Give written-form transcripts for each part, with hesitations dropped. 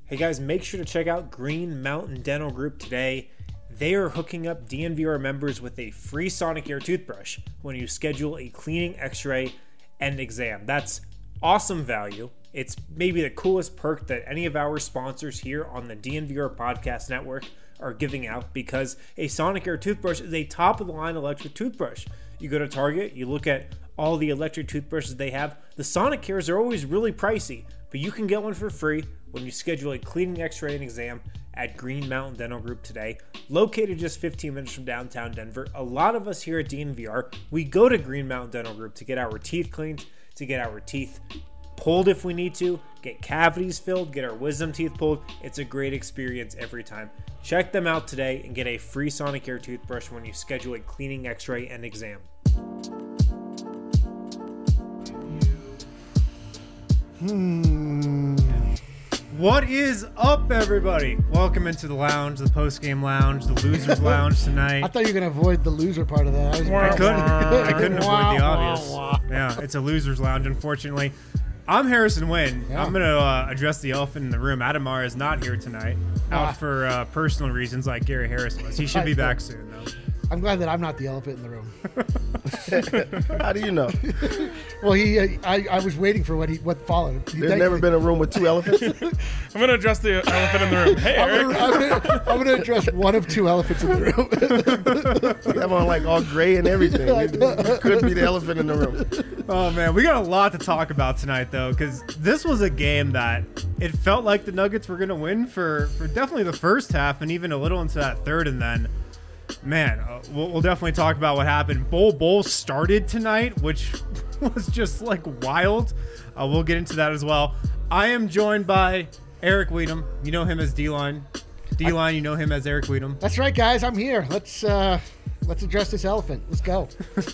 Hey guys, make sure to check out Green Mountain Dental Group today. They are hooking up DNVR members with a free Sonicare toothbrush when you schedule a cleaning, x-ray, and exam. That's awesome value. It's maybe the coolest perk that any of our sponsors here on the DNVR Podcast Network are giving out, because a Sonicare toothbrush is a top-of-the-line electric toothbrush. You go to Target, you look at all the electric toothbrushes they have. The Sonicares are always really pricey, but you can get one for free when you schedule a cleaning, x-ray, and exam at Green Mountain Dental Group today. Located just 15 minutes from downtown Denver, a lot of us here at DNVR, we go to Green Mountain Dental Group to get our teeth cleaned, to get our teeth pulled if we need to, get cavities filled, get our wisdom teeth pulled. It's a great experience every time. Check them out today and get a free Sonicare toothbrush when you schedule a cleaning, x-ray, and exam. What is up, everybody? Welcome into the lounge, the post-game lounge, the losers lounge tonight. I thought you were going to avoid the loser part of that. I couldn't avoid the obvious. Yeah, it's a losers lounge, unfortunately. I'm Harrison Wynn. Yeah. I'm going to address the elephant in the room. Adamar is not here tonight, out for personal reasons like Gary Harris was. He should be back soon, though. I'm glad that I'm not the elephant in the room. How do you know? Well, I was waiting for what followed. There's never been a room with two elephants? I'm going to address the elephant in the room. Hey, Eric. I'm going to address one of two elephants in the room. You have on like all gray and everything. You could be the elephant in the room. Oh, man. We got a lot to talk about tonight, though, because this was a game that it felt like the Nuggets were going to win for definitely the first half and even a little into that third, and then man, we'll definitely talk about what happened. Bowl started tonight, which was just like wild. We'll get into that as well. I am joined by Eric Weedham. You know him as D-Line. D-Line, you know him as Eric Weedham. That's right, guys. I'm here. Let's address this elephant. Let's go.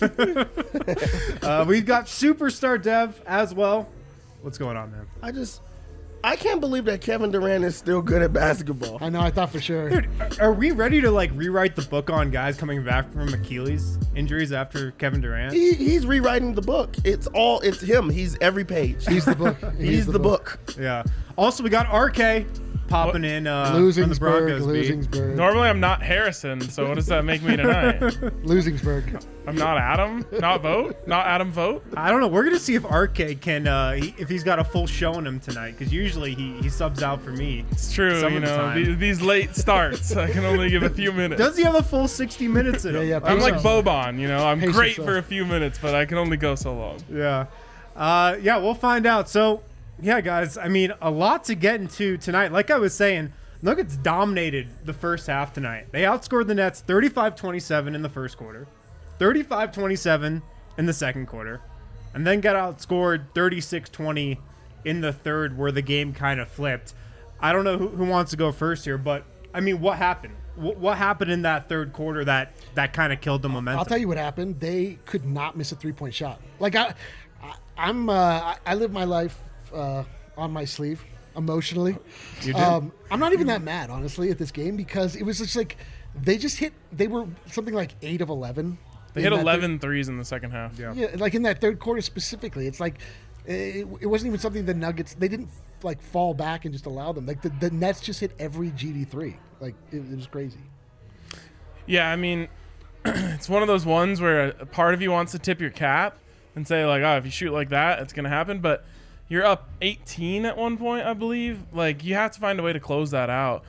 We've got Superstar Dev as well. What's going on, man? I can't believe that Kevin Durant is still good at basketball. I know, I thought for sure. Dude, are we ready to like rewrite the book on guys coming back from Achilles injuries after Kevin Durant? He's rewriting the book. It's him. He's every page. He's the book. He's the book. Yeah. Also, we got RK popping in from the Broncos. Losingsburg. Normally, I'm not Harrison, so what does that make me tonight? Losingsburg. I'm not Adam. Not Adam Vote. I don't know. We're gonna see if RK can, if he's got a full show in him tonight, because usually he subs out for me. It's true. You know, these late starts, I can only give a few minutes. Does he have a full 60 minutes in him? Yeah, I'm like Boban. You know, I'm great for a few minutes, but I can only go so long. Yeah. Yeah, we'll find out. So, yeah, guys, I mean, a lot to get into tonight. Like I was saying, Nuggets dominated the first half tonight. They outscored the Nets 35-27 in the first quarter, 35-27 in the second quarter, and then got outscored 36-20 in the third, where the game kind of flipped. I don't know who wants to go first here, but, I mean, what happened? What happened in that third quarter that kind of killed the momentum? I'll tell you what happened. They could not miss a three-point shot. Like, I live my life on my sleeve emotionally. You do? I'm not even that mad, honestly, at this game, because it was just like they were something like 8 of 11. They hit 11 threes in the second half. Yeah, like in that third quarter specifically. It's like it wasn't even something the Nuggets, they didn't like fall back and just allow them. Like the Nets just hit every GD3. Like it was crazy. Yeah, I mean, it's one of those ones where a part of you wants to tip your cap and say like, oh, if you shoot like that, it's going to happen. But you're up 18 at one point, I believe. Like, you have to find a way to close that out.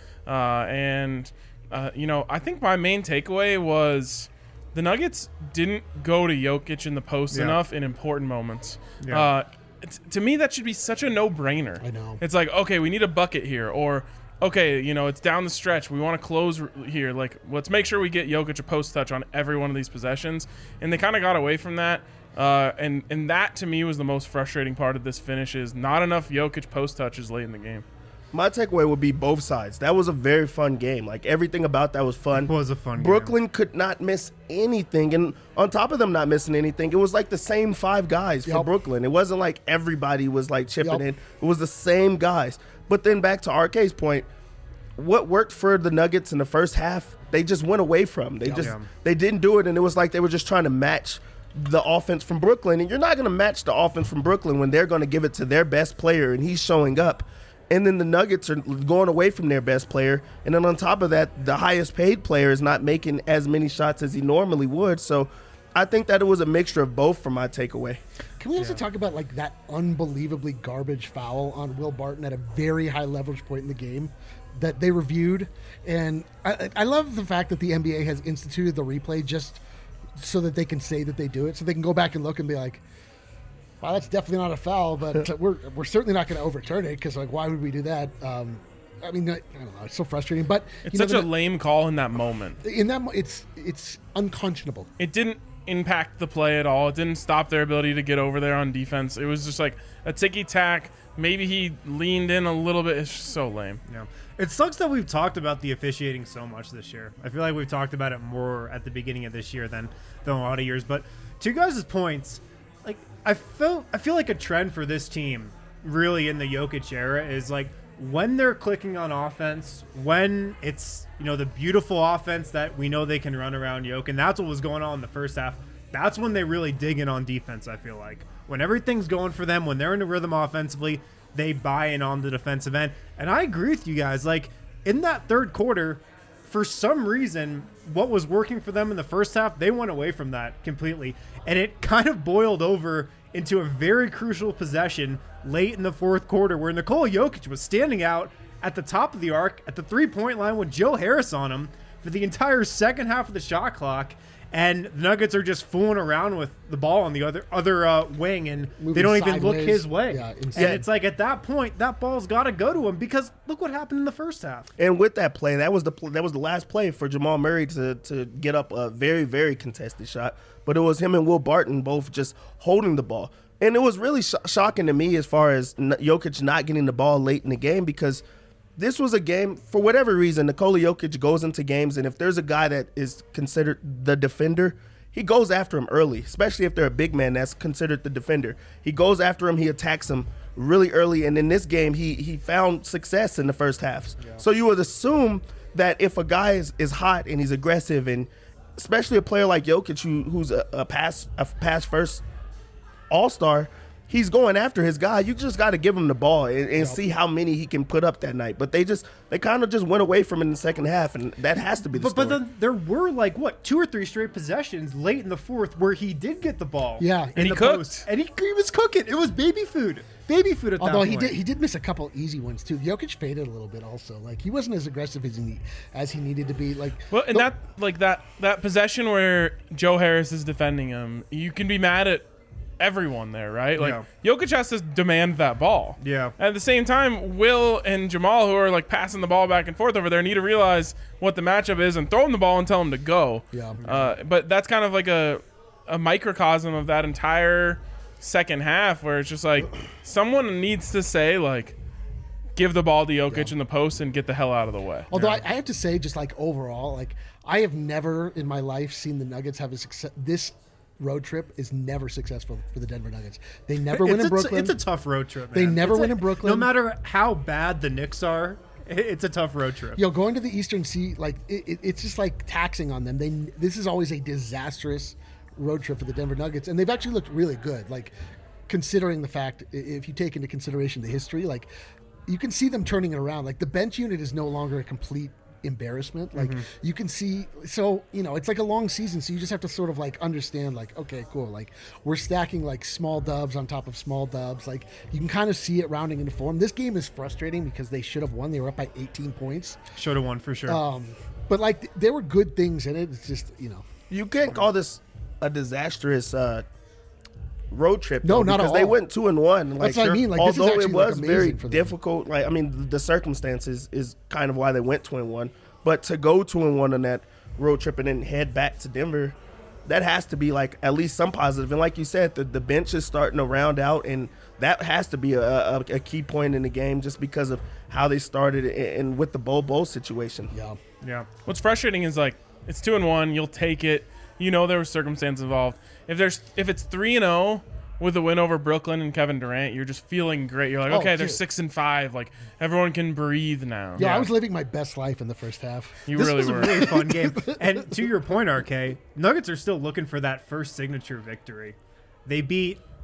You know, I think my main takeaway was the Nuggets didn't go to Jokic in the post enough in important moments. Yeah. To me, that should be such a no-brainer. I know. It's like, okay, we need a bucket here. Or, okay, you know, it's down the stretch. We want to close here. Like, let's make sure we get Jokic a post touch on every one of these possessions. And they kind of got away from that. And that, to me, was the most frustrating part of this finish, is not enough Jokic post touches late in the game. My takeaway would be both sides. That was a very fun game. Like, everything about that was fun. It was a fun game. Brooklyn could not miss anything. And on top of them not missing anything, it was like the same 5 guys for Brooklyn. It wasn't like everybody was like chipping in. It was the same guys. But then back to RK's point, what worked for the Nuggets in the first half, they just went away from. They didn't do it, and it was like they were just trying to match the offense from Brooklyn. And you're not going to match the offense from Brooklyn when they're going to give it to their best player and he's showing up. And then the Nuggets are going away from their best player. And then on top of that, the highest paid player is not making as many shots as he normally would. So I think that it was a mixture of both for my takeaway. Can we also talk about like that unbelievably garbage foul on Will Barton at a very high leverage point in the game that they reviewed? And I love the fact that the NBA has instituted the replay just so that they can say that they do it. So they can go back and look and be like, wow, that's definitely not a foul, but we're certainly not going to overturn it because, like, why would we do that? I mean, I don't know. It's so frustrating, but it's such a lame call in that moment. It's unconscionable. It didn't impact the play at all. It didn't stop their ability to get over there on defense. It was just like a ticky-tack. Maybe he leaned in a little bit. It's just so lame. Yeah. It sucks that we've talked about the officiating so much this year. I feel like we've talked about it more at the beginning of this year than a lot of years. But to you guys' points, like I feel like a trend for this team really in the Jokic era is like when they're clicking on offense, when it's, you know, the beautiful offense that we know they can run around Jokic, and that's what was going on in the first half. That's when they really dig in on defense, I feel like. When everything's going for them, when they're in a rhythm offensively, they buy in on the defensive end. And I agree with you guys. Like, in that third quarter, for some reason, what was working for them in the first half, they went away from that completely. And it kind of boiled over into a very crucial possession late in the fourth quarter where Nikola Jokic was standing out at the top of the arc at the three-point line with Joe Harris on him for the entire second half of the shot clock. And the Nuggets are just fooling around with the ball on the other wing, and moving they don't even sideways. look his way. Yeah, and it's like at that point, that ball's got to go to him because look what happened in the first half. And with that play, that was the last play for Jamal Murray to get up a very, very contested shot. But it was him and Will Barton both just holding the ball. And it was really shocking to me as far as Jokic not getting the ball late in the game because this was a game, for whatever reason, Nikola Jokic goes into games, and if there's a guy that is considered the defender, he goes after him early, especially if they're a big man that's considered the defender. He goes after him, he attacks him really early, and in this game, he found success in the first half. Yeah. So you would assume that if a guy is hot and he's aggressive, and especially a player like Jokic who's a pass first all-star, he's going after his guy. You just got to give him the ball and see how many he can put up that night. But they kind of just went away from it in the second half, and that has to be the story. But then there were like, 2 or 3 straight possessions late in the fourth where he did get the ball. Yeah. And he cooked. Post, and he was cooking. It was baby food. Baby food at that Although point. he did miss a couple easy ones too. Jokic faded a little bit also. Like he wasn't as aggressive as he needed to be. Like that possession where Joe Harris is defending him, you can be mad at everyone there, right? Like Jokic has to demand that ball. Yeah. At the same time, Will and Jamal, who are like passing the ball back and forth over there, need to realize what the matchup is and throw him the ball and tell him to go. Yeah. But that's kind of like a microcosm of that entire second half where it's just like someone needs to say like, give the ball to Jokic in the post and get the hell out of the way. Although I have to say, just like overall, like I have never in my life seen the Nuggets have a success. This road trip is never successful for the Denver Nuggets. They never win in Brooklyn. It's a tough road trip, man. They never win in Brooklyn. No matter how bad the Knicks are, it's a tough road trip. Going to the Eastern Sea, like it's just like taxing on them. This is always a disastrous road trip for the Denver Nuggets, and they've actually looked really good. Like considering the fact, if you take into consideration the history, like you can see them turning it around. Like the bench unit is no longer a complete embarrassment. Like you can see, so it's like a long season, so you just have to sort of like understand like, okay, cool, like we're stacking like small dubs on top of small dubs. Like you can kind of see it rounding into form. This game is frustrating because they should have won. They were up by 18 points. Should have won for sure. But like there were good things in it. It's just you can't call this a disastrous road trip. No, not at because all. they went 2-1. That's what I mean. Like, this is although actually, it was like, very amazing for them. difficult. Like I mean, the circumstances is kind of why they went 2-1. But to go 2-1 on that road trip and then head back to Denver, that has to be like at least some positive. And like you said, the bench is starting to round out, and that has to be a key point in the game just because of how they started and with the Bo situation. Yeah. What's frustrating is like it's 2-1, you'll take it. There was circumstance involved. If it's 3-0 with a win over Brooklyn and Kevin Durant, you're just feeling great. You're like, okay, they're 6-5. Like everyone can breathe now. Yeah, I was living my best life in the first half. You This really was were. a really fun game. And to your point, RK, Nuggets are still looking for that first signature victory. They beat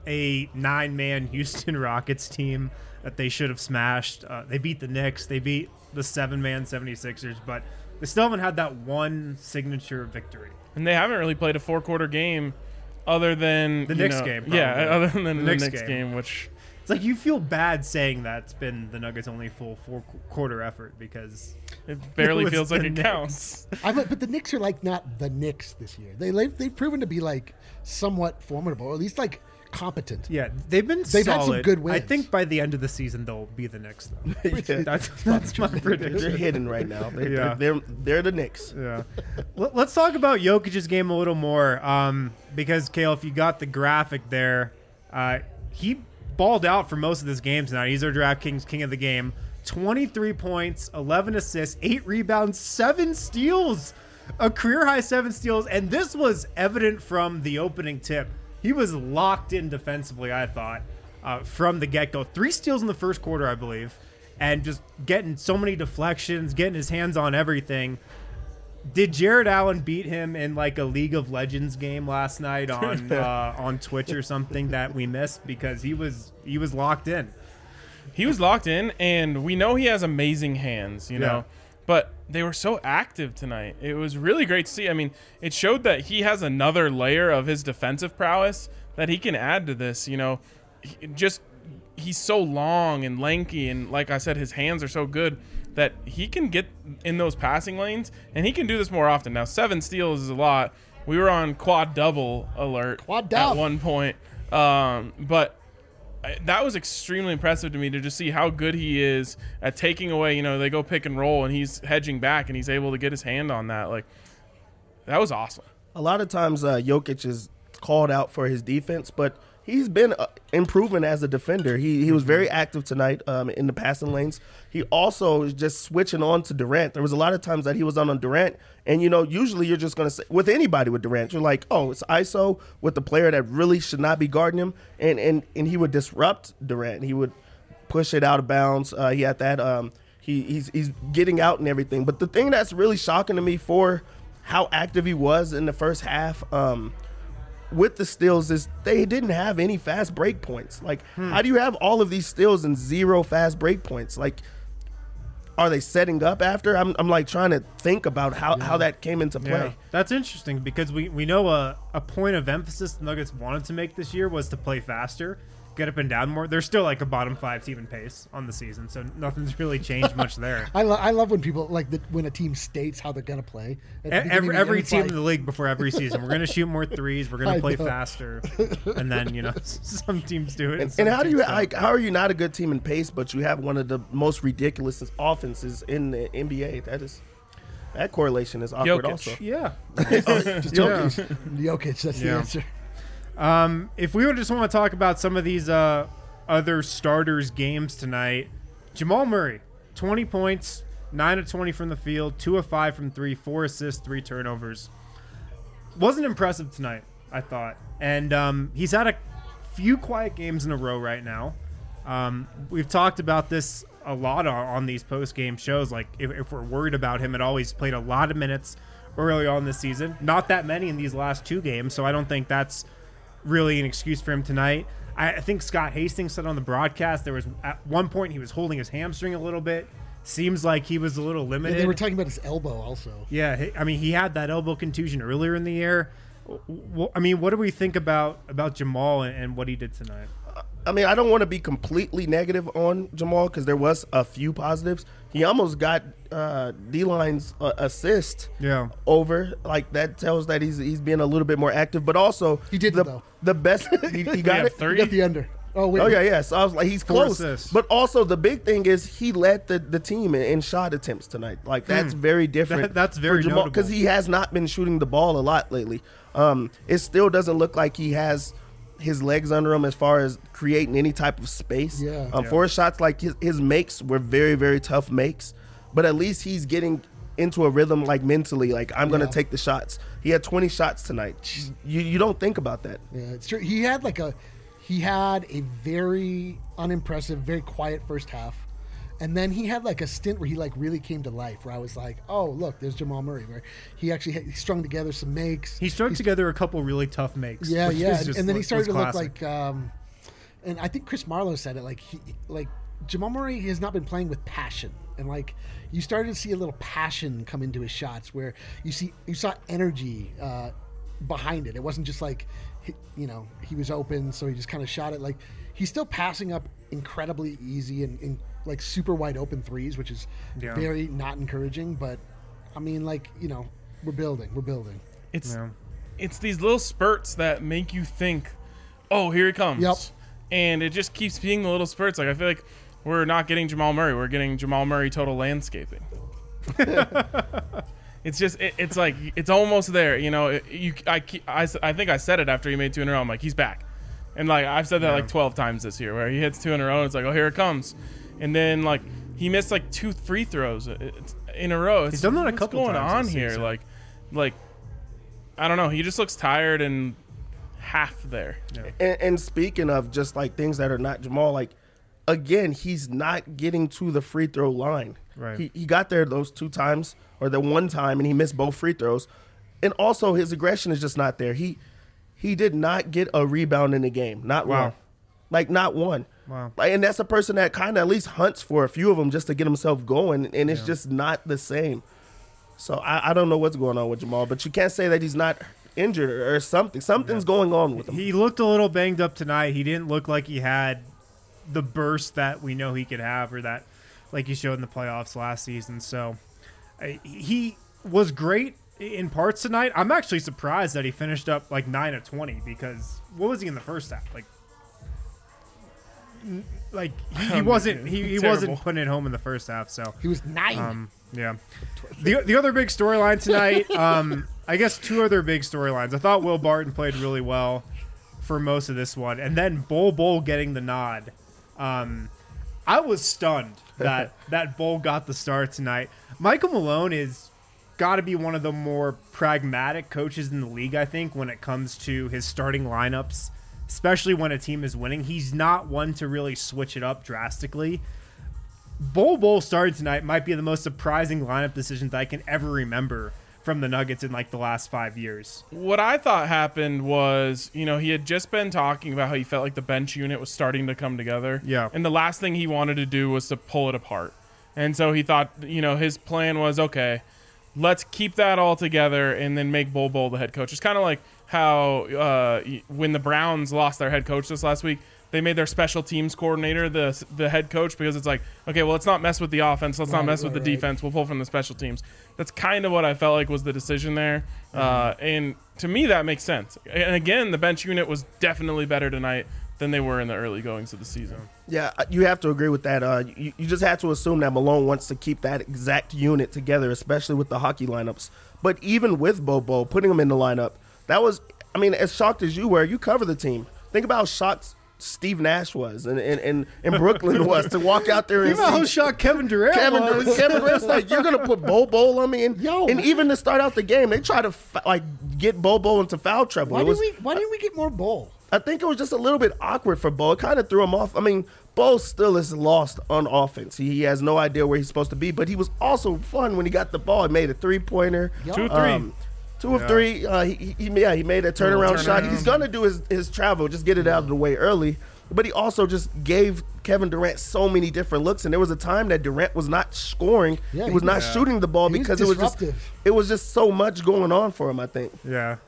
a 9-man Houston Rockets team that they should have smashed. They beat the Knicks. They beat the 7-man 76ers, but they still haven't had that one signature victory. And they haven't really played a 4-quarter game other than the Knicks game. Probably. Yeah, other than the Knicks game, game, which... It's like you feel bad saying that's been the Nuggets' only full 4-quarter effort because it barely feels like it Knicks. Counts. But the Knicks are like not the Knicks this year. They've proven to be like somewhat formidable, or at least like competent. Yeah, they've had solid. some good wins. I think by the end of the season they'll be the Knicks though. Yeah. That's my prediction. They're hidden right now. Yeah. They're the Knicks. Yeah. Let's talk about Jokic's game a little more because, Kale, if you got the graphic there, he balled out for most of this game tonight. He's our DraftKings king of the game. 23 points, 11 assists, 8 rebounds, 7 steals. A career-high 7 steals, and this was evident from the opening tip. He was locked in defensively, I thought, from the get-go. 3 steals in the first quarter, I believe, and just getting so many deflections, getting his hands on everything. Did Jared Allen beat him in like a League of Legends game last night on Twitch or something that we missed? Because he was locked in. He was locked in, and we know he has amazing hands, you know. But they were so active tonight. It was really great to see. I mean, it showed that he has another layer of his defensive prowess that he can add to this, you know. He's so long and lanky, and like I said, his hands are so good that he can get in those passing lanes, and he can do this more often. Now, 7 steals is a lot. We were on quad double alert at one point, but that was extremely impressive to me to just see how good he is at taking away. You know, they go pick and roll, and he's hedging back, and he's able to get his hand on that. Like, that was awesome. A lot of times, Jokic is called out for his defense, but he's been improving as a defender. He was very active tonight in the passing lanes. He also is just switching on to Durant. There was a lot of times that he was on Durant, and, you know, usually you're just going to say, with anybody with Durant, you're like, oh, it's ISO with the player that really should not be guarding him, and he would disrupt Durant. He would push it out of bounds. He had that. He's getting out and everything. But the thing that's really shocking to me for how active he was in the first half with the steals is they didn't have any fast break points. Like, how do you have all of these steals and 0 fast break points? Like, are they setting up after? I'm like trying to think about how that came into play. Yeah, that's interesting because we know a point of emphasis the Nuggets wanted to make this year was to play faster, get up and down more. They're still like a bottom 5 team in pace on the season, so nothing's really changed much there. I love when people when a team states how they're gonna play. Every team in the league before every season, we're gonna shoot more threes, we're gonna play faster, and then, you know, some teams do it. And how do you how are you not a good team in pace, but you have one of the most ridiculous offenses in the NBA? That correlation is awkward. Jokic. Also. Yeah. Just Jokic, that's the answer. If we would just want to talk about some of these other starters' games tonight, Jamal Murray, 20 points, 9 of 20 from the field, 2 of 5 from 3, 4 assists, 3 turnovers. Wasn't impressive tonight, I thought. And he's had a few quiet games in a row right now. We've talked about this a lot on these post-game shows. Like, if we're worried about him, he's played a lot of minutes early on this season. Not that many in these last 2 games, so I don't think that's really an excuse for him tonight. I think Scott Hastings said on the broadcast there was at one point he was holding his hamstring a little bit. Seems like he was a little limited. Yeah, they were talking about his elbow also. Yeah, I mean, he had that elbow contusion earlier in the year. I mean, what do we think about Jamal and what he did tonight? I mean, I don't want to be completely negative on Jamal because there was a few positives. He almost got D-Line's assist over. Like, that tells that he's being a little bit more active. But also, he did though. The best he got it. 30? He got the under. Oh, wait. Oh, yeah. So I was like, he's 4 close. assists. But also, the big thing is he led the team in shot attempts tonight. Like, that's very different. That's very for Jamal notable. because he has not been shooting the ball a lot lately. It still doesn't look like he has his legs under him as far as creating any type of space. For his shots, like his makes were very, very tough makes. But at least he's getting into a rhythm, like mentally, like I'm going to take the shots. He had 20 shots tonight. You don't think about that. Yeah, it's true. He had a very unimpressive, very quiet first half. And then he had like a stint where he like really came to life, where I was like, oh, look, there's Jamal Murray, where he actually he strung together some makes. He strung together a couple really tough makes. Yeah, which yeah. is just And then he started to look classic. like, and I think Chris Marlowe said it, like Jamal Murray has not been playing with passion. And like you started to see a little passion come into his shots where you saw energy behind it. It wasn't just like, he was open, so he just kind of shot it. Like he's still passing up incredibly easy and like super wide open threes, which is very not encouraging. But I mean, like, we're building. It's these little spurts that make you think, oh, here he comes. Yep. And it just keeps being the little spurts. Like I feel like we're not getting Jamal Murray. We're getting Jamal Murray total landscaping. It's just it's like it's almost there. I think I said it after he made 2 in a row. I'm like, he's back. And like I've said that like 12 times this year, where he hits 2 in a row and it's like, oh, here it comes. And then like he missed like 2 free throws in a row. He's done that a couple times. What's going on this here? season. Like I don't know. He just looks tired and half there. Yeah. And speaking of just like things that are not Jamal, like again, he's not getting to the free throw line. Right. He got there those 2 times or the 1 time, and he missed both free throws. And also his aggression is just not there. He did not get a rebound in the game. Not one. Like not one. Wow. Like, and that's a person that kind of at least hunts for a few of them just to get himself going, and it's just not the same. So I don't know what's going on with Jamal, but you can't say that he's not injured or something. Something's going on with him. He looked a little banged up tonight. He didn't look like he had the burst that we know he could have, or that like he showed in the playoffs last season. So he was great in parts tonight. I'm actually surprised that he finished up like 9 of 20, because what was he in the first half? Like he wasn't putting it home in the first half. So He was 9. yeah. The other big storyline tonight, I guess 2 other big storylines. I thought Will Barton played really well for most of this one, and then Bol getting the nod. I was stunned that Bol got the start tonight. Michael Malone is got to be one of the more pragmatic coaches in the league, I think, when it comes to his starting lineups, especially when a team is winning. He's not one to really switch it up drastically. Bol starting tonight might be the most surprising lineup decisions I can ever remember from the Nuggets in like the last 5 years. What I thought happened was, he had just been talking about how he felt like the bench unit was starting to come together. Yeah. And the last thing he wanted to do was to pull it apart. And so he thought, his plan was, okay, let's keep that all together and then make Bol the head coach. It's kind of like how when the Browns lost their head coach this last week, they made their special teams coordinator the head coach, because it's like, okay, well, let's not mess with the offense. Let's not mess with the defense. We'll pull from the special teams. That's kind of what I felt like was the decision there. And to me, that makes sense. And again, the bench unit was definitely better tonight than they were in the early goings of the season. Yeah, you have to agree with that. You just have to assume that Malone wants to keep that exact unit together, especially with the hockey lineups. But even with Bobo, putting him in the lineup, that was, as shocked as you were, you cover the team. Think about how shocked Steve Nash was and Brooklyn was to walk out there and Think about how shocked Kevin Durant was. Kevin Durant's like, you're going to put Bobo on me? And even to start out the game, they try to get Bobo into foul trouble. Why didn't we get more Bol? I think it was just a little bit awkward for Bo. It kind of threw him off. Bo still is lost on offense. He has no idea where he's supposed to be, but he was also fun when he got the ball. He made a 3-pointer. 2-3. 2 of 3. He made a turnaround shot. He's going to do his travel, just get it out of the way early. But he also just gave Kevin Durant so many different looks, and there was a time that Durant was not scoring. Yeah, he was not shooting the ball because it was just so much going on for him, I think. Yeah.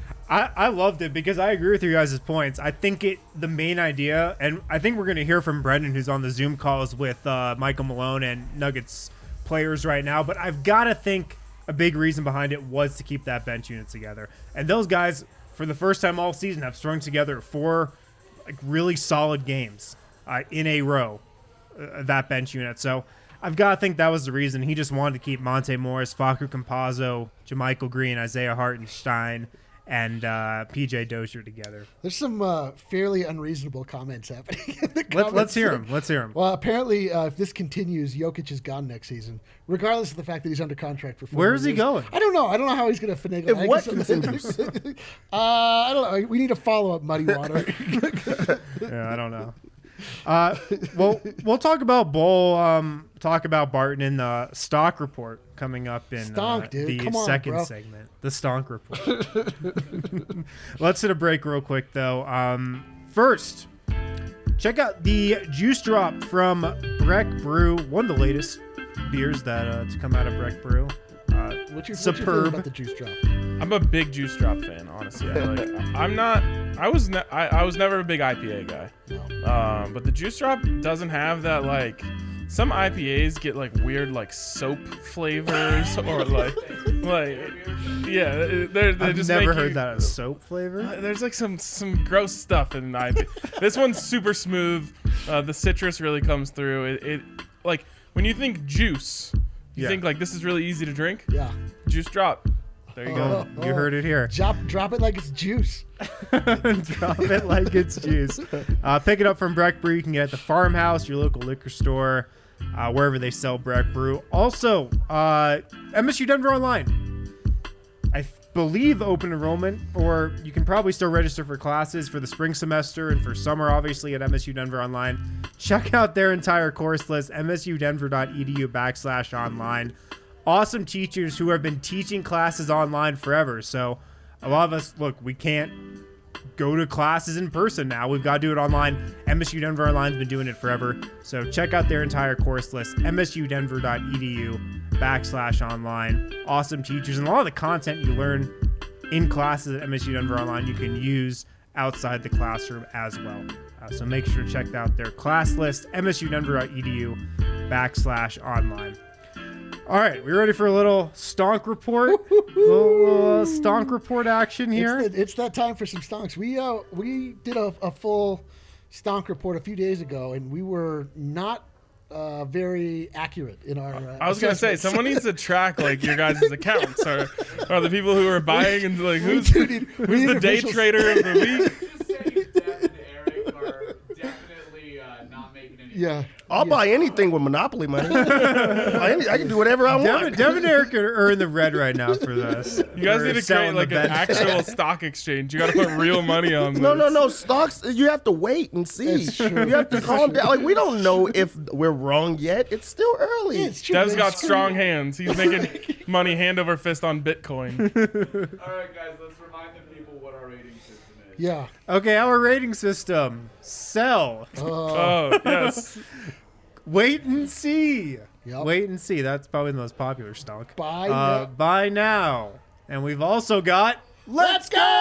I loved it because I agree with you guys' points. I think the main idea, and I think we're going to hear from Brendan, who's on the Zoom calls with Michael Malone and Nuggets players right now, but I've got to think a big reason behind it was to keep that bench unit together. And those guys, for the first time all season, have strung together 4 really solid games in a row, that bench unit. So I've got to think that was the reason. He just wanted to keep Monte Morris, Facu Campazzo, JaMychal Green, Isaiah Hartenstein, and PJ Dozier together. There's some fairly unreasonable comments happening in the Let's hear them. Let's hear them. Well, apparently, if this continues, Jokic is gone next season, regardless of the fact that he's under contract for 4 Where years. is he going? I don't know. I don't know how he's going to finagle. If what continues? I don't know. We need a follow-up, Muddy Water. Yeah, I don't know. Well, we'll talk about Bull. Talk about Barton in the stock report coming up in Stonk, dude. the Come on, second bro. segment. The stonk report. Let's hit a break real quick, though. First, check out the Juice Drop from Breck Brew, one of the latest beers that to come out of Breck Brew. What's your superb. feeling about the Juice Drop? I'm a big Juice Drop fan, honestly. Like, I'm not. I was never a big IPA guy. No. But the Juice Drop doesn't have that, like, some IPAs get like weird like soap flavors or like yeah, they're I've just never make heard you- that as soap flavor. There's like some gross stuff in the IPA. This one's super smooth. The citrus really comes through. It like when you think juice, you Yeah. think like this is really easy to drink. Yeah. Juice Drop. There you go. You heard it here. Drop it like it's juice. Drop it like it's juice. Pick it up from Breck Brew. You can get it at the farmhouse, your local liquor store, wherever they sell Breck Brew. Also, MSU Denver Online. I believe open enrollment, or you can probably still register for classes for the spring semester and for summer, obviously, at MSU Denver Online. Check out their entire course list, msudenver.edu/online. Awesome teachers who have been teaching classes online forever. So a lot of us, look, we can't go to classes in person now. We've got to do it online. MSU Denver Online's been doing it forever. So check out their entire course list, msudenver.edu/online. Awesome teachers. And a lot of the content you learn in classes at MSU Denver Online, you can use outside the classroom as well. So make sure to check out their class list, msudenver.edu/online. All right, we ready for a little stonk report? little stonk report action here. It's that time for some stonks. We did a full stonk report a few days ago, and we were not very accurate in our. I was gonna say assessments. someone needs to track like your guys' accounts or the people who are buying and like who's need the day officials. trader of the week. Just saying Dev and Eric are definitely not making any. Yeah. I'll buy anything with Monopoly money. I can do whatever I want. Devin and Eric are in the red right now for this. You guys For need to selling create like the an bet. actual stock exchange. You got to put real money on this. No. Stocks, you have to wait and see. It's true. You have to calm down. Like, we don't know if we're wrong yet. It's still early. Yeah, it's true. Dev's man. got strong hands. He's making money hand over fist on Bitcoin. All right, guys, let's remind the people what our rating system is. Yeah. Okay, our rating system. Sell. Oh yes. Wait and see. Yep. Wait and see. That's probably the most popular stonk. Buy now. Buy now. And we've also got Let's go.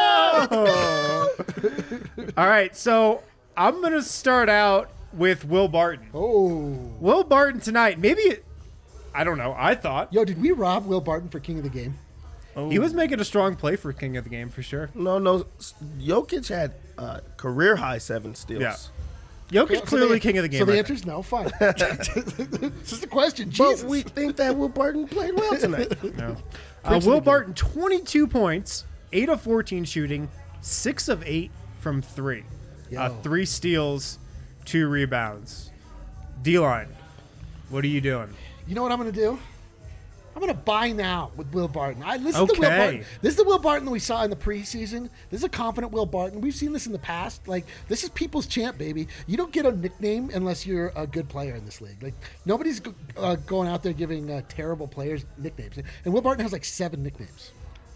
All right, so I'm going to start out with Will Barton. Oh. Will Barton tonight, I don't know, I thought Yo, did we rob Will Barton for King of the Game? he was making a strong play for King of the Game for sure. No. Jokic had career high 7 steals. Yeah. Jokic clearly King of the Game. So the I answer think. is no. Fine. It's just a question. But Jesus. we think that Will Barton played well tonight. No. Prince of Will the game. Barton, 22 points, 8 of 14 shooting, 6 of 8 from 3. Yo. 3 steals, 2 rebounds. D-line, what are you doing? You know what I'm going to do? I'm going to buy now with Will Barton. This is the Will Okay. Barton. This is the Will Barton that we saw in the preseason. This is a confident Will Barton. We've seen this in the past. Like, this is people's champ, baby. You don't get a nickname unless you're a good player in this league. Like, nobody's going out there giving terrible players nicknames. And Will Barton has like 7 nicknames.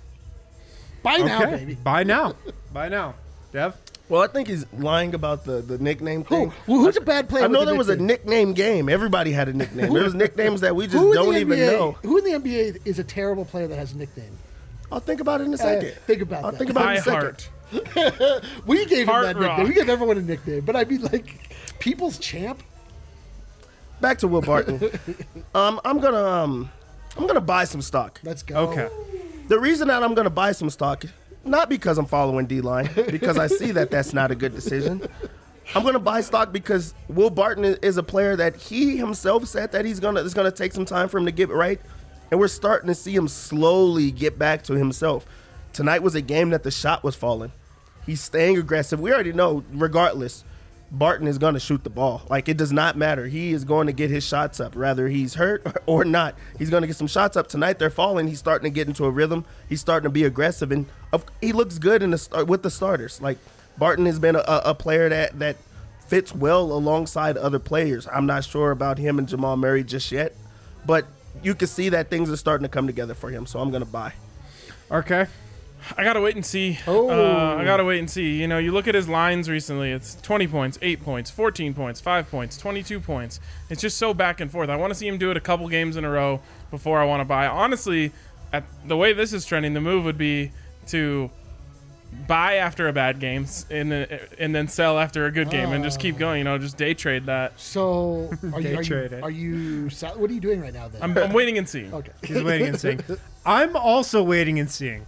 Buy now, baby. Buy now. Buy now. Dev? Well, I think he's lying about the nickname thing. Who's a bad player? I know with there was a nickname game. Everybody had a nickname. There was nicknames that we just Who in don't the even NBA know. Who in the NBA is a terrible player that has a nickname? I'll think about it in a second. Think about I'll that. think about it in a High second. heart. We gave him Hard that nickname. rock. We gave everyone a nickname. But I mean, like, people's champ? Back to Will Barton. I'm gonna buy some stock. Let's go. Okay. The reason that I'm gonna buy some stock, not because I'm following D-line, because I see that that's not a good decision. I'm gonna buy stock because Will Barton is a player that he himself said that it's gonna take some time for him to get it right, and we're starting to see him slowly get back to himself. Tonight was a game that the shot was falling. He's staying aggressive. We already know, regardless, Barton is going to shoot the ball. Like, it does not matter. He is going to get his shots up, whether he's hurt or not. He's going to get some shots up. Tonight they're falling. He's starting to get into a rhythm. He's starting to be aggressive, and he looks good with the starters. Like, Barton has been a player that fits well alongside other players. I'm not sure about him and Jamal Murray just yet, but you can see that things are starting to come together for him, so I'm going to buy. Okay. I gotta wait and see. Oh. I gotta wait and see. You know, you look at his lines recently. It's 20 points, 8 points, 14 points, 5 points, 22 points. It's just so back and forth. I want to see him do it a couple games in a row before I want to buy. Honestly, at the way this is trending, the move would be to buy after a bad game and then sell after a good game and just keep going. You know, just day trade that. So what are you doing right now then? I'm waiting and seeing. Okay. He's waiting and seeing. I'm also waiting and seeing.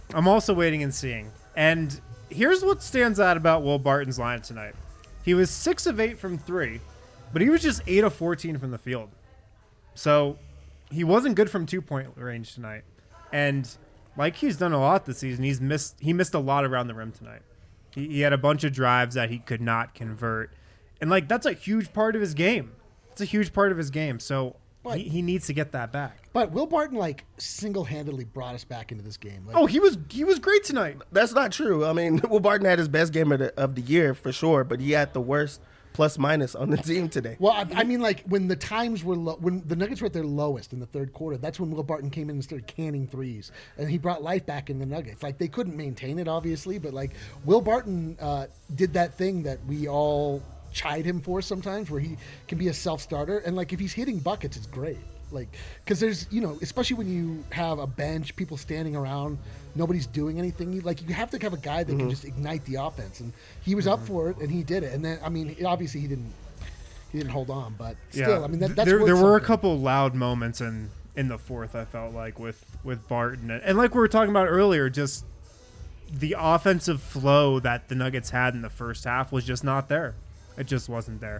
And here's what stands out about Will Barton's line tonight. He was 6 of 8 from 3, but he was just 8 of 14 from the field. So he wasn't good from 2-point range tonight. And like he's done a lot this season, he missed a lot around the rim tonight. He had a bunch of drives that he could not convert. And like that's a huge part of his game. So he needs to get that back. But Will Barton like single-handedly brought us back into this game. Like, Oh, he was great tonight. That's not true. I mean, Will Barton had his best game of the year for sure, but he had the worst plus-minus on the team today. well, I mean, like when the times were low, when the Nuggets were at their lowest in the third quarter, that's when Will Barton came in and started canning threes, and he brought life back in the Nuggets. Like they couldn't maintain it, obviously, but like Will Barton did that thing that we all chide him for sometimes, where he can be a self-starter, and like if he's hitting buckets, it's great. Like, because there's, especially when you have a bench, people standing around, nobody's doing anything. You have to have a guy that can just ignite the offense, and he was up for it, and he did it. And then, I mean, obviously he didn't hold on, but still, I mean, that's there worth were a something. couple loud moments in the fourth. I felt like with Barton, and like we were talking about earlier, just the offensive flow that the Nuggets had in the first half was just not there. It just wasn't there.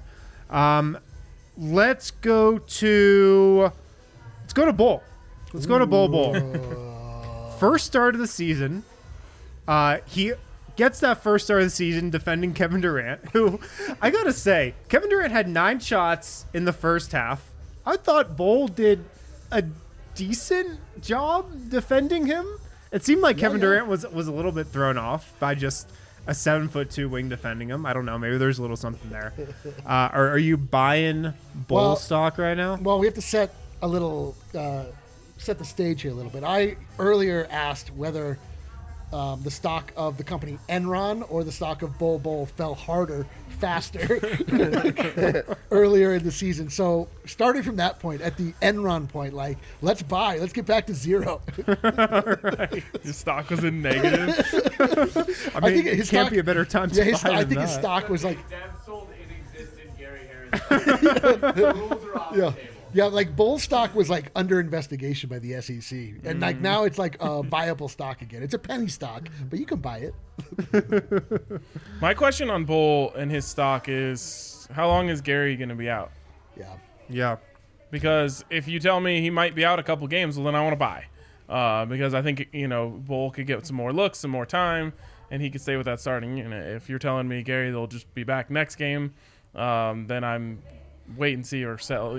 Let's go to Bull. Let's go to Bull. First start of the season. He gets that first start of the season defending Kevin Durant, who I gotta say, Kevin Durant had 9 shots in the first half. I thought Bull did a decent job defending him. It seemed like Kevin Durant was a little bit thrown off by just a 7'2" wing defending him. I don't know. Maybe there's a little something there. Are you buying Bull stock right now? Well, we have to set the stage here a little bit. I earlier asked whether the stock of the company Enron or the stock of Bull fell harder, faster earlier in the season. So starting from that point, at the Enron point, like, let's get back to zero. Right. Your stock was in negative. I mean, think his can't stock- be a better time to buy I than think his that. stock was like, Dev sold inexistent Gary Harris. The rules are off the table. yeah, like Bull stock was like under investigation by the SEC, and like now it's like a viable stock again. It's a penny stock, but you can buy it. My question on Bull and his stock is, how long is Gary going to be out? Yeah. Yeah. Because if you tell me he might be out a couple games, well, then I want to buy. Because I think, Bull could get some more looks, some more time, and he could stay with that starting unit. If you're telling me, Gary, they'll just be back next game, then I'm wait and see or sell.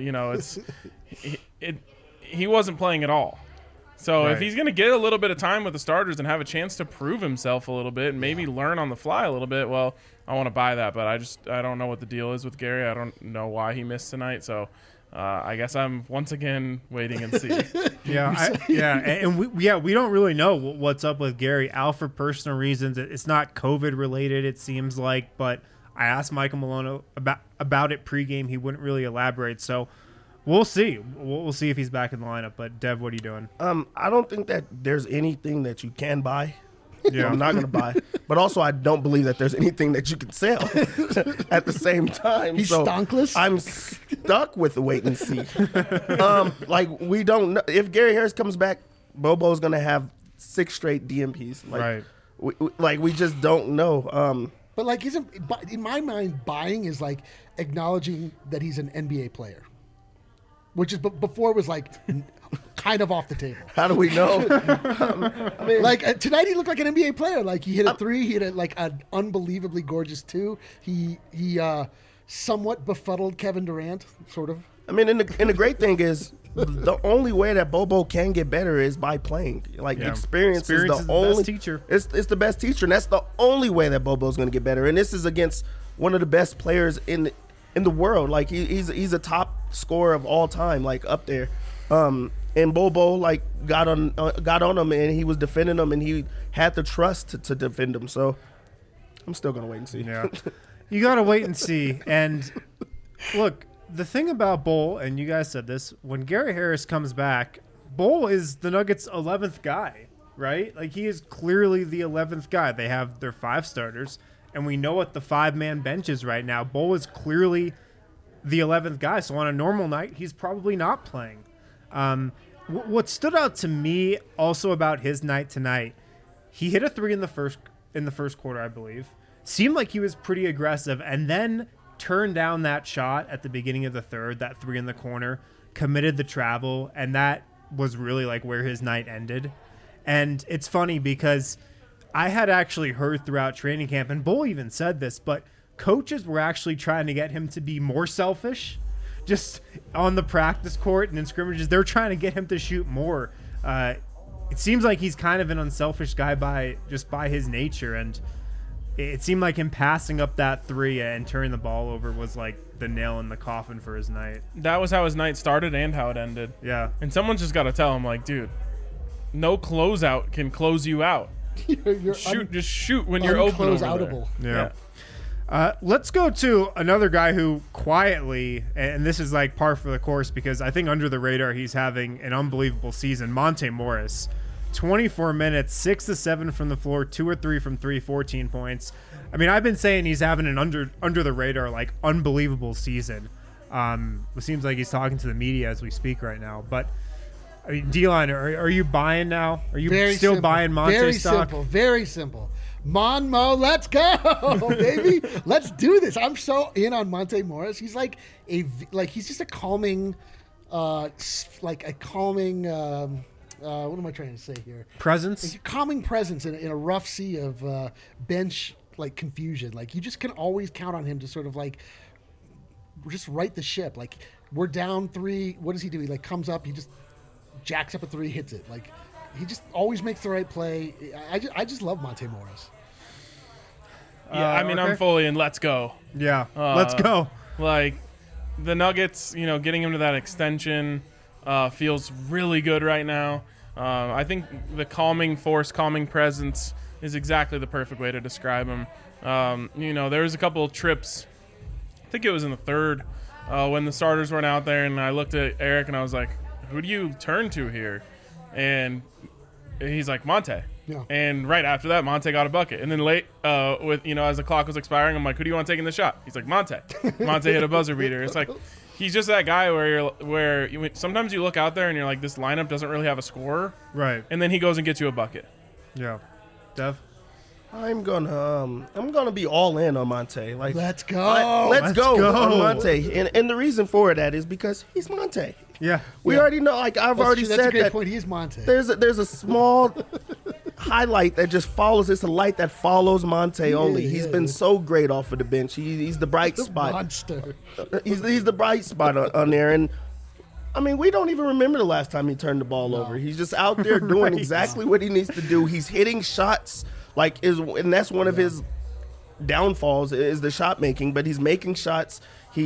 He wasn't playing at all. So if Right. he's going to get a little bit of time with the starters and have a chance to prove himself a little bit and maybe learn on the fly a little bit, well, I want to buy that. But I don't know what the deal is with Gary. I don't know why he missed tonight. So I guess I'm once again waiting and see. And we don't really know what's up with Gary. Out for personal reasons. It's not COVID related, it seems like. But I asked Michael Malone about it pregame. He wouldn't really elaborate. So we'll see. We'll see if he's back in the lineup. But Dev, what are you doing? I don't think that there's anything that you can buy. Yeah. I'm not going to buy. But also, I don't believe that there's anything that you can sell at the same time. He's so stonkless? I'm stuck with the wait and see. We don't know. If Gary Harris comes back, Bobo's going to have 6 straight DMPs. Right. We just don't know. But like, in my mind, buying is like acknowledging that he's an NBA player, which is before it was like kind of off the table. How do we know? Like tonight, he looked like an NBA player. Like he hit a 3, he hit like an unbelievably gorgeous 2. He somewhat befuddled Kevin Durant, sort of. I mean, and the great thing is, the only way that Bobo can get better is by playing. Like, experience is the only best teacher. It's the best teacher, and that's the only way that Bobo's going to get better. And this is against one of the best players in the world. Like he's a top scorer of all time, like up there. And Bobo like got on him, and he was defending him, and he had the trust to defend him. So I'm still gonna wait and see. Yeah, you gotta wait and see. And look, the thing about Bull, and you guys said this, when Gary Harris comes back, Bull is the Nuggets' 11th guy, right? Like he is clearly the 11th guy. They have their 5 starters, and we know what the 5-man bench is right now. Bull is clearly the 11th guy. So on a normal night, he's probably not playing. What stood out to me also about his night tonight, he hit a 3 in the first quarter, I believe. Seemed like he was pretty aggressive, and then turned down that shot at the beginning of the third, that 3 in the corner, committed the travel, and that was really like where his night ended. And it's funny because I had actually heard throughout training camp, and Bull even said this, but coaches were actually trying to get him to be more selfish. Just on the practice court and in scrimmages, they're trying to get him to shoot more. It seems like he's kind of an unselfish guy by his nature, and it seemed like him passing up that 3 and turning the ball over was like the nail in the coffin for his night. That was how his night started and how it ended. Yeah. And someone's just got to tell him, like, dude, no closeout can close you out. Just shoot when you're open over unclose-outable. there. Yeah. Let's go to another guy who quietly, and this is like par for the course because I think under the radar he's having an unbelievable season. Monte Morris, 24 minutes, 6 to 7 from the floor, 2 or 3 from 3, 14 points. I mean, I've been saying he's having an under the radar, like unbelievable season. It seems like he's talking to the media as we speak right now. But I mean, D-Line, are you buying now? Are you still simple. buying Monte stock? Very simple. Monmo, let's go, baby. Let's do this. I'm so in on Monte Morris. He's he's just a calming, what am I trying to say here? Presence? Like a calming presence in a rough sea of bench like confusion. Like you just can always count on him to sort of like just right the ship. Like we're down 3. What does he do? He like comes up. He just jacks up a 3, hits it. Like he just always makes the right play. I just love Monte Morris. Yeah, I mean, okay. I'm fully in. Let's go. Yeah, let's go. Like the Nuggets, getting him to that extension feels really good right now. I think the calming force, calming presence is exactly the perfect way to describe him. There was a couple of trips. I think it was in the third when the starters weren't out there, and I looked at Eric and I was like, "Who do you turn to here?" And he's like, Monte. Yeah. And right after that, Monte got a bucket. And then late, as the clock was expiring, I'm like, who do you want taking the shot? He's like, Monte. Monte hit a buzzer beater. It's like, he's just that guy where sometimes you look out there and you're like, this lineup doesn't really have a scorer. Right. And then he goes and gets you a bucket. Yeah. Dev? I'm gonna be all in on Monte. Like, let's go. Let's go on Monte. And the reason for that is because he's Monte. Yeah. We already know. Like I've already that's said a great that. point. He is Monte. There's a small highlight that just follows. It's a light that follows Monte only. He's been so great off of the bench. He's the bright spot. Monster. He's the bright spot on there. And I mean, we don't even remember the last time he turned the ball over. He's just out there doing exactly what he needs to do. He's hitting shots and that's one of his downfalls is the shot making. But he's making shots.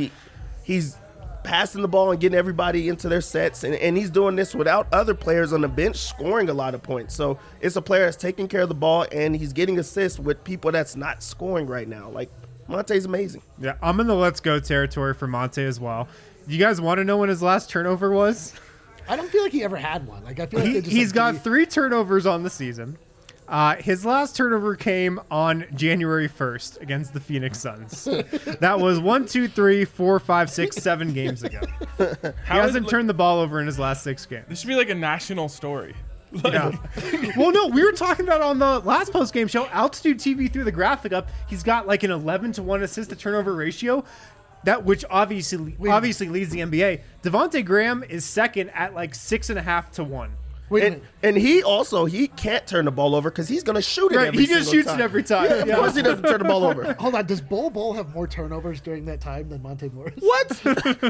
He's passing the ball and getting everybody into their sets, and he's doing this without other players on the bench scoring a lot of points. So it's a player that's taking care of the ball, and he's getting assists with people that's not scoring right now. Like, Monte's amazing. Yeah, I'm in the let's go territory for Monte as well. You guys want to know when his last turnover was? I don't feel like he ever had one. Like I feel like he's got 3 turnovers on the season. His last turnover came on January 1st against the Phoenix Suns. That was 1, 2, 3, 4, 5, 6, 7 games ago. He hasn't turned the ball over in his last 6 games. This should be like a national story. Yeah. Well, no, we were talking about on the last post-game show, Altitude TV threw the graphic up. He's got like an 11-to-1 assist-to-turnover ratio, which obviously leads the NBA. Devontae Graham is second at like 6.5-to-1. And he can't turn the ball over because he's going to shoot it every He just shoots it every time. Yeah, of course he doesn't turn the ball over. Hold on. Does Bol have more turnovers during that time than Monte Morris? What?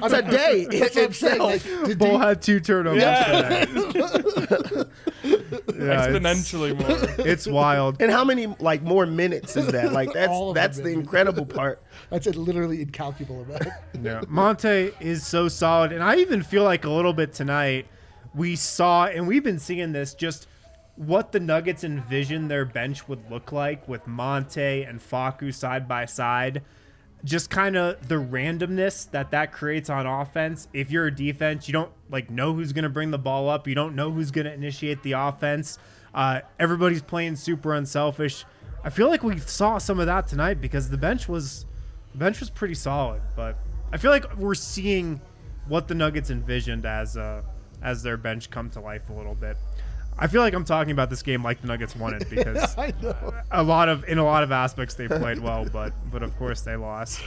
Today. That's what I'm saying. Like, Bol had 2 turnovers today. Yeah, exponentially more. It's wild. And how many like more minutes is that? Like All of that's them, the baby. incredible part. That's a literally incalculable amount. Yeah. Monte is so solid. And I even feel like a little bit tonight we saw, and we've been seeing this, just what the Nuggets envisioned their bench would look like with Monte and Facu side by side. Just kind of the randomness that creates on offense. If you're a defense, you don't like know who's going to bring the ball up. You don't know who's going to initiate the offense. Everybody's playing super unselfish. I feel like we saw some of that tonight because the bench was pretty solid. But I feel like we're seeing what the Nuggets envisioned as their bench come to life a little bit. I feel like I'm talking about this game like the Nuggets won it because I know. in a lot of aspects they played well, but of course they lost.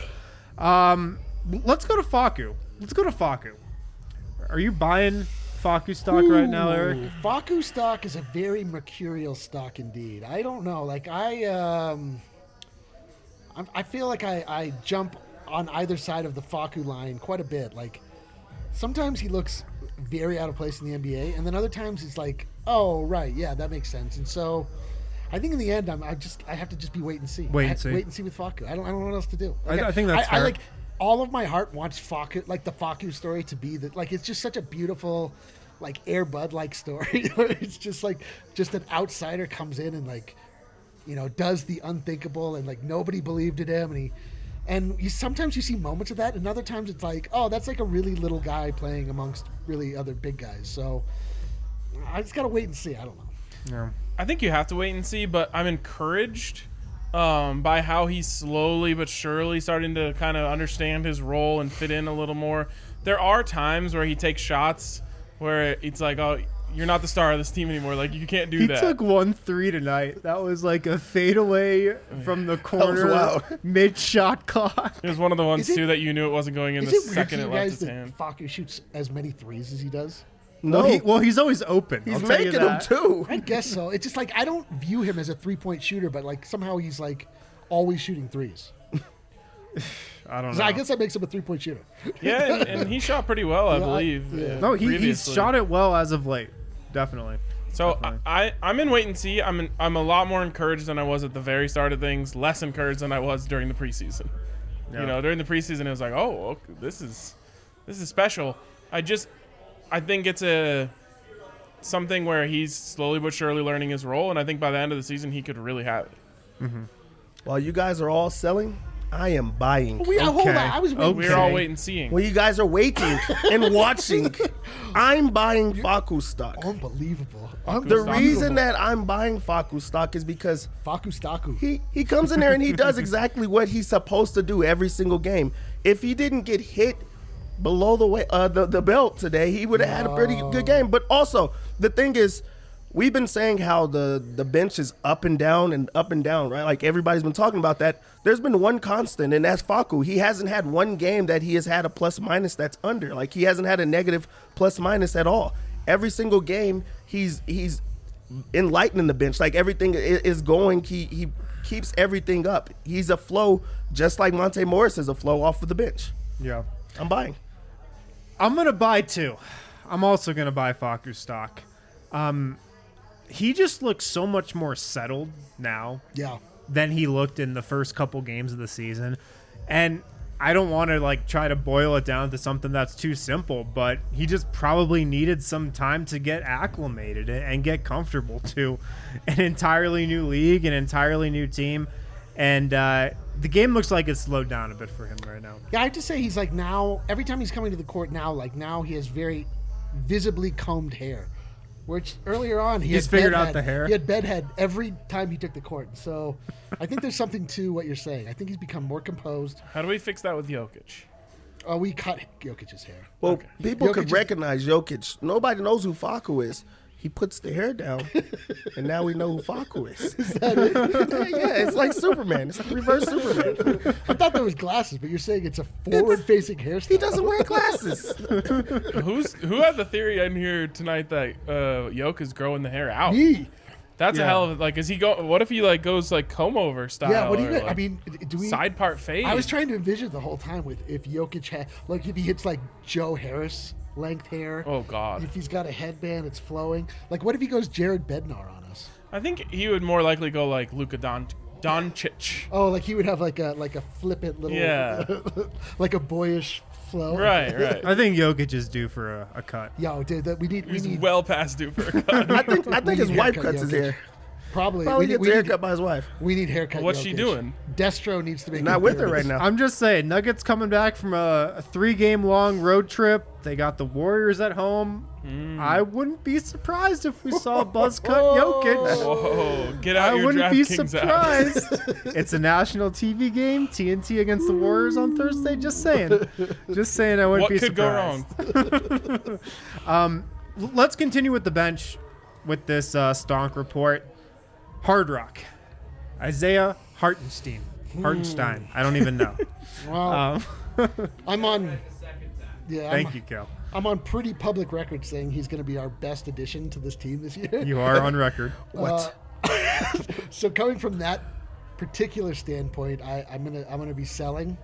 Let's go to Facu. Are you buying Facu stock right now, Eric? Facu stock is a very mercurial stock indeed. I don't know. Like I feel like I jump on either side of the Facu line quite a bit. Like sometimes he looks very out of place in the NBA, and then other times it's like, oh right, yeah, that makes sense. And so I think in the end, I have to just be wait and see. Wait and see with Facu. I don't know what else to do. Like, I think that's I fair. like all of my heart wants Facu, like the Facu story, to be that. Like it's just such a beautiful, like Air Bud like story. It's just like an outsider comes in and like, you know, does the unthinkable, and like nobody believed in him, and sometimes you see moments of that, and other times it's like, oh, that's like a really little guy playing amongst really other big guys. So I just gotta wait and see. I don't know. Yeah. I think you have to wait and see, but I'm encouraged by how he's slowly but surely starting to kind of understand his role and fit in a little more. There are times where he takes shots where it's like, oh, you're not the star of this team anymore. Like, you can't do He that. took 1-3 tonight. That was like a fadeaway from the was corner wild. mid-shot clock. It was one of the ones, Is it- too, that you knew it wasn't going in Is the it weird second to it you left guys his that hand. Facu shoots as many threes as he does? No, Well, he's always open. he's I'll tell you making them that. too. I guess so. It's just like I don't view him as a 3-point shooter, but like somehow he's like always shooting threes. I don't So know. I guess that makes him a 3-point shooter. Yeah, and he shot pretty well, I Yeah, believe. yeah. No, he's previously. shot it well as of late. Definitely. So Definitely. I'm in wait and see. I'm a lot more encouraged than I was at the very start of things. Less encouraged than I was during the preseason. Yeah. You know, during the preseason, it was like, oh, okay, this is special. I think it's something where he's slowly but surely learning his role, and I think by the end of the season, he could really have it. While you guys are all selling, I am buying. Hold on. I was waiting. We're all waiting and seeing. When you guys are waiting and watching, I'm buying Facu stock. Unbelievable. The reason that I'm buying Facu stock is because Facu Staku. he comes in there and he does exactly what he's supposed to do every single game. If he didn't get hit below the belt today, he would have had a pretty good game. But also, the thing is, we've been saying how the bench is up and down, right? Like everybody's been talking about that. There's been one constant, and that's Facu. He hasn't had one game that he has had a plus minus that's under. Like he hasn't had a negative plus minus at all. Every single game, he's enlightening the bench. Like everything is going. He keeps everything up. He's a flow, just like Monte Morris is a flow off of the bench. Yeah. I'm buying. I'm going to buy too. I'm also going to buy Facu stock. He just looks so much more settled now Yeah. than he looked in the first couple games of the season. And I don't want to like try to boil it down to something that's too simple, but he just probably needed some time to get acclimated and get comfortable to an entirely new league, an entirely new team. And the game looks like it's slowed down a bit for him right now. Yeah, I have to say he's like now, every time he's coming to the court now he has very visibly combed hair. Which earlier on He's figured out the hair. He had bedhead every time he took the court. So I think there's something to what you're saying. I think he's become more composed. How do we fix that with Jokic? We cut Jokic's hair. Well, people Jokic could is- recognize Jokic. Nobody knows who Facu is. He puts the hair down, and now we know who Facu is. Yeah, it's like Superman. It's like reverse Superman. I thought there was glasses, but you're saying it's a forward-facing hairstyle. He doesn't wear glasses. Who had the theory in here tonight that Jokic is growing the hair out? Me. That's a Yeah. hell of a, is he go? What if he goes like comb over style? Yeah. What do or, you? like, I mean, do we? side part fade. I was trying to envision the whole time with if Jokic had, like, if he hits like Joe Harris length hair. Oh God. If he's got a headband, it's flowing. Like, what if he goes Jared Bednar on us? I think he would more likely go like Luka Doncic. Oh, like he would have like a flippant little, Yeah. like a boyish flow. Right. I think Jokic is due for a cut. Yo, dude, we need He's well past due for a cut. I think his need wife haircut, cuts his Jokic. hair. Probably. Probably we gets need, a haircut by his wife. we need haircut. What's she Jokic. doing? Destro needs to make Not an with her right appearance. now. I'm just saying, Nuggets coming back from a 3-game long road trip. They got the Warriors at home. I wouldn't be surprised if we saw a buzz cut Jokic. Whoa, get out I your wouldn't be DraftKings app. surprised. It's a national TV game, TNT against the Warriors on Thursday. Just saying. I wouldn't What be could surprised. go wrong? Let's continue with the bench with this Stonk report. Hard Rock. Isaiah Hartenstein. Hartenstein. I don't even know. Well, I'm on. Yeah, Thank you, Kel. I'm on pretty public record saying he's going to be our best addition to this team this year. You are on record. What? So coming from that particular standpoint, I'm gonna be selling.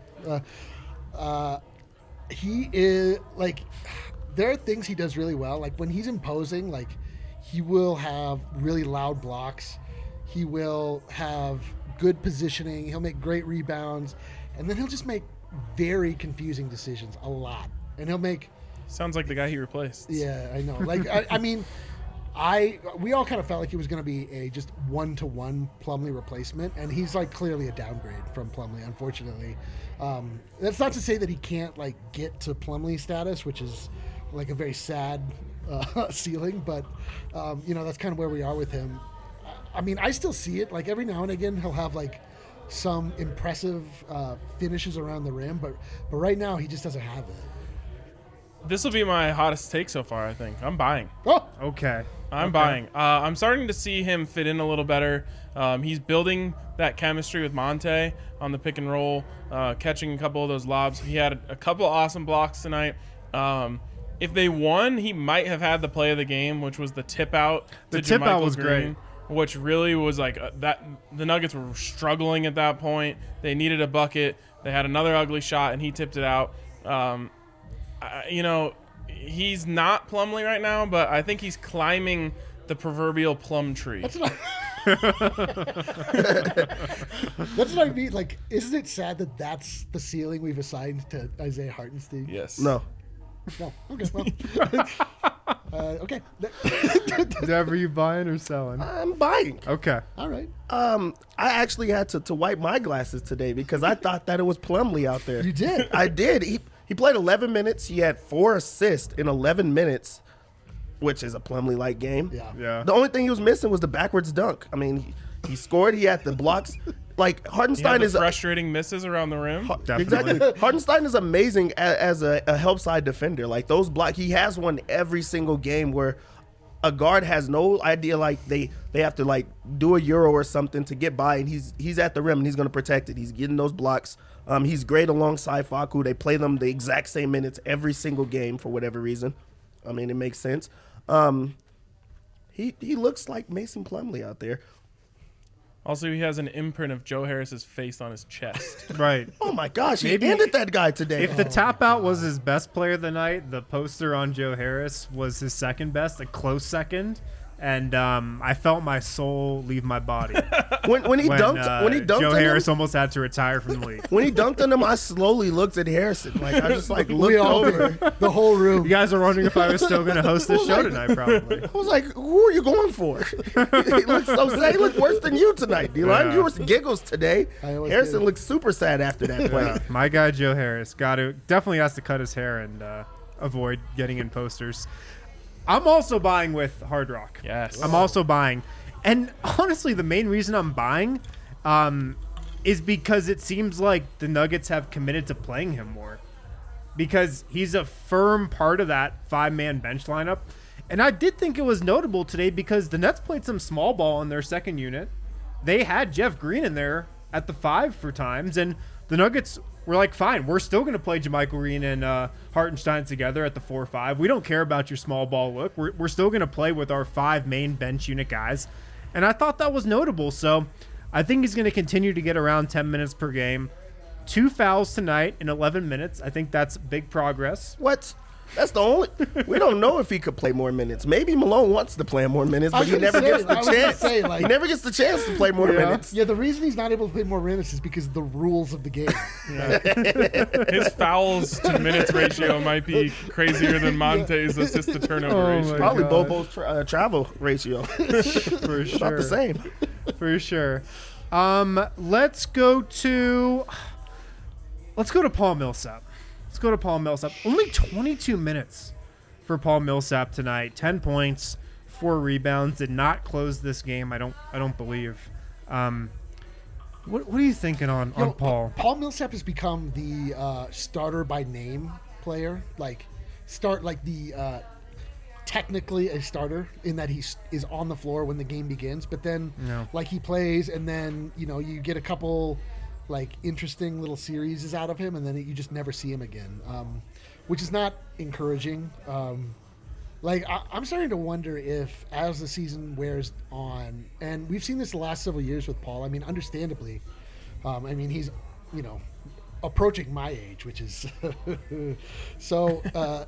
He is like, there are things he does really well. Like when he's imposing, like he will have really loud blocks. He will have good positioning. He'll make great rebounds, and then he'll just make very confusing decisions a lot. And he'll make. Sounds like the guy he replaced. Yeah, I know. Like, I mean, we all kind of felt like he was going to be a just 1-to-1 Plumlee replacement, and he's like clearly a downgrade from Plumlee, unfortunately. That's not to say that he can't like get to Plumlee status, which is like a very sad ceiling, but that's kind of where we are with him. I mean, I still see it. Like every now and again, he'll have like some impressive finishes around the rim, but right now he just doesn't have it. This will be my hottest take so far, I think. I'm buying. Oh, Okay. I'm buying. I'm starting to see him fit in a little better. He's building that chemistry with Monte on the pick and roll, catching a couple of those lobs. He had a couple of awesome blocks tonight. If they won, he might have had the play of the game, which was the tip out. The to tip out JaMychal was Green, which really was like that. The Nuggets were struggling at that point. They needed a bucket. They had another ugly shot, and he tipped it out. He's not Plumlee right now, but I think he's climbing the proverbial plum tree. that's what I mean. Like, isn't it sad that that's the ceiling we've assigned to Isaiah Hartenstein? Yes. No. No. Okay. Well. Okay. Dev, are you buying or selling? I'm buying. Okay. All right. I actually had to wipe my glasses today because I thought that it was Plumlee out there. You did? I did. He played 11 minutes. He had 4 assists in 11 minutes, which is a Plumlee-like game. Yeah. The only thing he was missing was the backwards dunk. I mean, he scored. He had the blocks. Like, He had Hartenstein the is frustrating misses around the rim. Definitely. Exactly. Hartenstein is amazing as a help side defender. Like those block, he has one every single game where a guard has no idea. Like they have to like do a euro or something to get by, and he's at the rim and he's going to protect it. He's getting those blocks. He's great alongside Facu. They play them the exact same minutes every single game for whatever reason. I mean, it makes sense. He looks like Mason Plumlee out there. Also, he has an imprint of Joe Harris's face on his chest. Right. Oh my gosh, Maybe- he ended that guy today. If the tap out was his best player of the night, the poster on Joe Harris was his second best, a close second. And I felt my soul leave my body when he dunked Joe on him, Harris almost had to retire from the league. when he dunked on him, I slowly looked at Harrison. Like I just like We looked all over. did. The whole room. You guys are wondering if I was still going to host this show tonight, probably. I was like, "Who are you going for?" He looked so sad. He looked worse than you tonight, D-Line. Yeah. You were giggles today. I always Harrison do. looked super sad after that play. Yeah, my guy Joe Harris definitely has to cut his hair and avoid getting in posters. I'm also buying with Hard Rock. Yes. I'm also buying. And honestly, the main reason I'm buying is because it seems like the Nuggets have committed to playing him more. Because he's a firm part of that 5-man bench lineup. And I did think it was notable today because the Nets played some small ball in their second unit. They had Jeff Green in there at the 5 for times. And the Nuggets were like, fine, we're still going to play JaMychal Green and Hartenstein together at the 4-5. We don't care about your small ball look. We're still going to play with our 5 main bench unit guys. And I thought that was notable. So I think he's going to continue to get around 10 minutes per game. 2 fouls tonight in 11 minutes. I think that's big progress. What? That's the only. We don't know if he could play more minutes. Maybe Malone wants to play more minutes, but he never gets the chance. He never gets the chance to play more minutes. Yeah, the reason he's not able to play more minutes is because of the rules of the game. His fouls to minutes ratio might be crazier than Monte's assist to turnover ratio. Probably Bobo's travel ratio. For sure. About the same. For sure. Let's go to Paul Millsap. Only 22 minutes for Paul Millsap tonight. 10 points, 4 rebounds. Did not close this game. I don't believe. What are you thinking on Paul? Paul Millsap has become the starter by name player. Technically a starter in that he is on the floor when the game begins, but then he plays, and then you get a couple interesting little series out of him, and then you just never see him again, which is not encouraging. I'm starting to wonder if, as the season wears on, and we've seen this the last several years with Paul. I mean, understandably, he's approaching my age, which is so.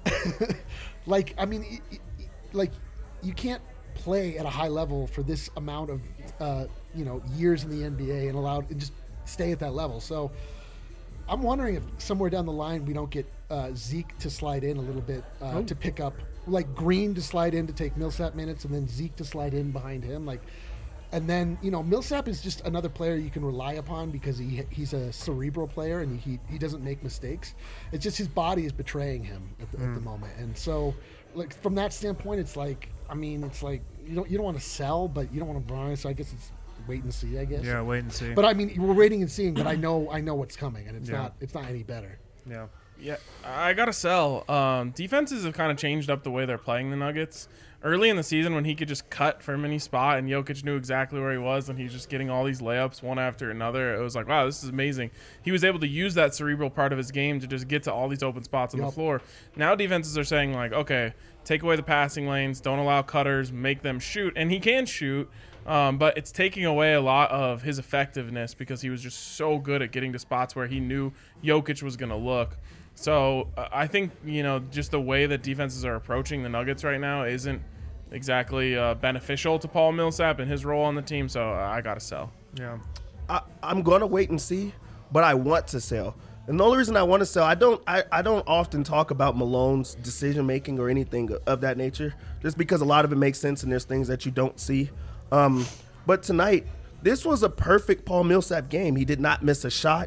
You can't play at a high level for this amount of years in the NBA and just stay at that level. So I'm wondering if somewhere down the line we don't get Zeke to slide in a little bit to pick up, Green to slide in to take Millsap minutes, and then Zeke to slide in behind him. And then Millsap is just another player you can rely upon because he's a cerebral player and he doesn't make mistakes. It's just his body is betraying him at the moment. And so from that standpoint, it's you don't want to sell, but you don't want to buy. So I guess it's wait and see, I guess. Yeah, wait and see. But we're waiting and seeing. But I know what's coming, and it's not any better. Yeah. Yeah, I gotta sell. Defenses have kind of changed up the way they're playing the Nuggets. Early in the season, when he could just cut from any spot and Jokic knew exactly where he was, and he's just getting all these layups one after another, it was like, wow, this is amazing. He was able to use that cerebral part of his game to just get to all these open spots on the floor. Now defenses are saying, okay, take away the passing lanes, don't allow cutters, make them shoot. And he can shoot, but it's taking away a lot of his effectiveness because he was just so good at getting to spots where he knew Jokic was going to look. So I think, just the way that defenses are approaching the Nuggets right now isn't exactly beneficial to Paul Millsap and his role on the team. So I got to sell. Yeah. I'm going to wait and see, but I want to sell. And the only reason I want to sell, I don't often talk about Malone's decision-making or anything of that nature, just because a lot of it makes sense and there's things that you don't see. But tonight, this was a perfect Paul Millsap game. He did not miss a shot.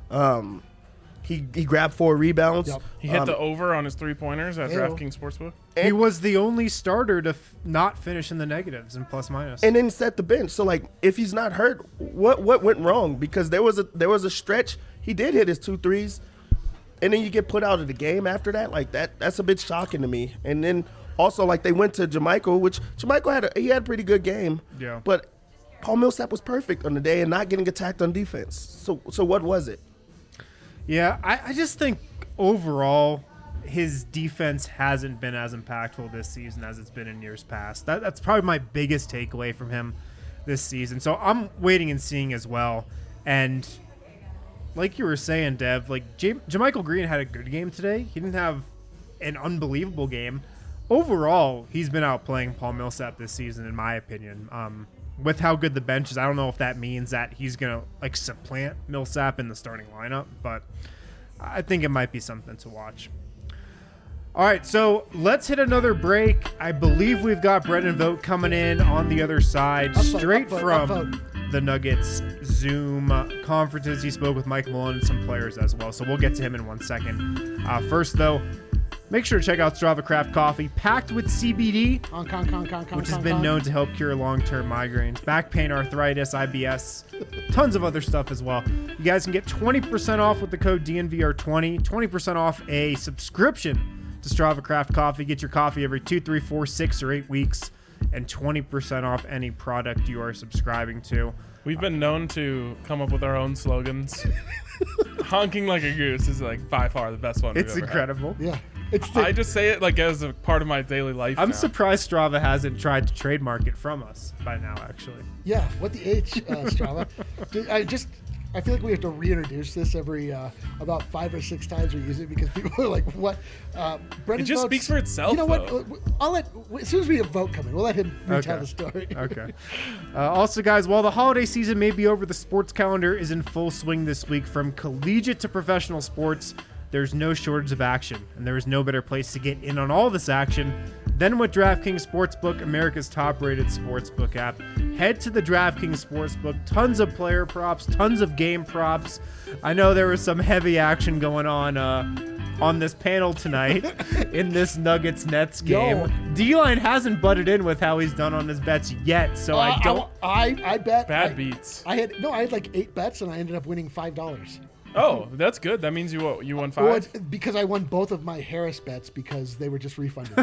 He grabbed 4 rebounds. Yep. He hit the over on his 3-pointers at DraftKings Sportsbook. He was the only starter to not finish in the negatives and plus minus. And then set the bench. So if he's not hurt, what went wrong? Because there was a stretch. He did hit his 2 threes, and then you get put out of the game after that. That's a bit shocking to me. And then also they went to JaMychal, which JaMychal had a pretty good game. Yeah. But Paul Millsap was perfect on the day and not getting attacked on defense. So what was it? Yeah, I just think overall his defense hasn't been as impactful this season as it's been in years past. That's probably my biggest takeaway from him this season. So I'm waiting and seeing as well. And like you were saying, Dev, JaMychal Green had a good game today. He didn't have an unbelievable game. Overall, he's been outplaying Paul Millsap this season, in my opinion. With how good the bench is, I don't know if that means that he's going to supplant Millsap in the starting lineup, but I think it might be something to watch. All right, so let's hit another break. I believe we've got Brendan Vogt coming in on the other side, straight from the Nuggets Zoom conferences. He spoke with Mike Malone and some players as well, so we'll get to him in 1 second. First, though, make sure to check out Strava Craft Coffee, packed with CBD, which has been known to help cure long-term migraines, back pain, arthritis, IBS, tons of other stuff as well. You guys can get 20% off with the code DNVR20, 20% off a subscription to Strava Craft Coffee. Get your coffee every 2, 3, 4, 6, or 8 weeks, and 20% off any product you are subscribing to. We've been known to come up with our own slogans. Honking like a goose is by far the best one. It's incredible. Had. Yeah. I just say it as a part of my daily life. I'm surprised Strava hasn't tried to trademark it from us by now, actually. Yeah, what the H, Strava? I feel like we have to reintroduce this every about 5 or 6 times we use it because people are like, "What?" Brendan It just votes- speaks for itself, You know what? though. I'll let as soon as we have vote come in, we'll let him retell Okay. the story. Okay. Also, guys, while the holiday season may be over, the sports calendar is in full swing this week. From collegiate to professional sports, there's no shortage of action, and there is no better place to get in on all this action than with DraftKings Sportsbook, America's top-rated sportsbook app. Head to the DraftKings Sportsbook. Tons of player props, tons of game props. I know there was some heavy action going on this panel tonight in this Nuggets-Nets game. Yo. D-Line hasn't butted in with how he's done on his bets yet, so I don't. I bet Bad beats. I had like 8 bets and I ended up winning $5. Oh, that's good. That means you won 5. Well, it's because I won both of my Harris bets because they were just refunded.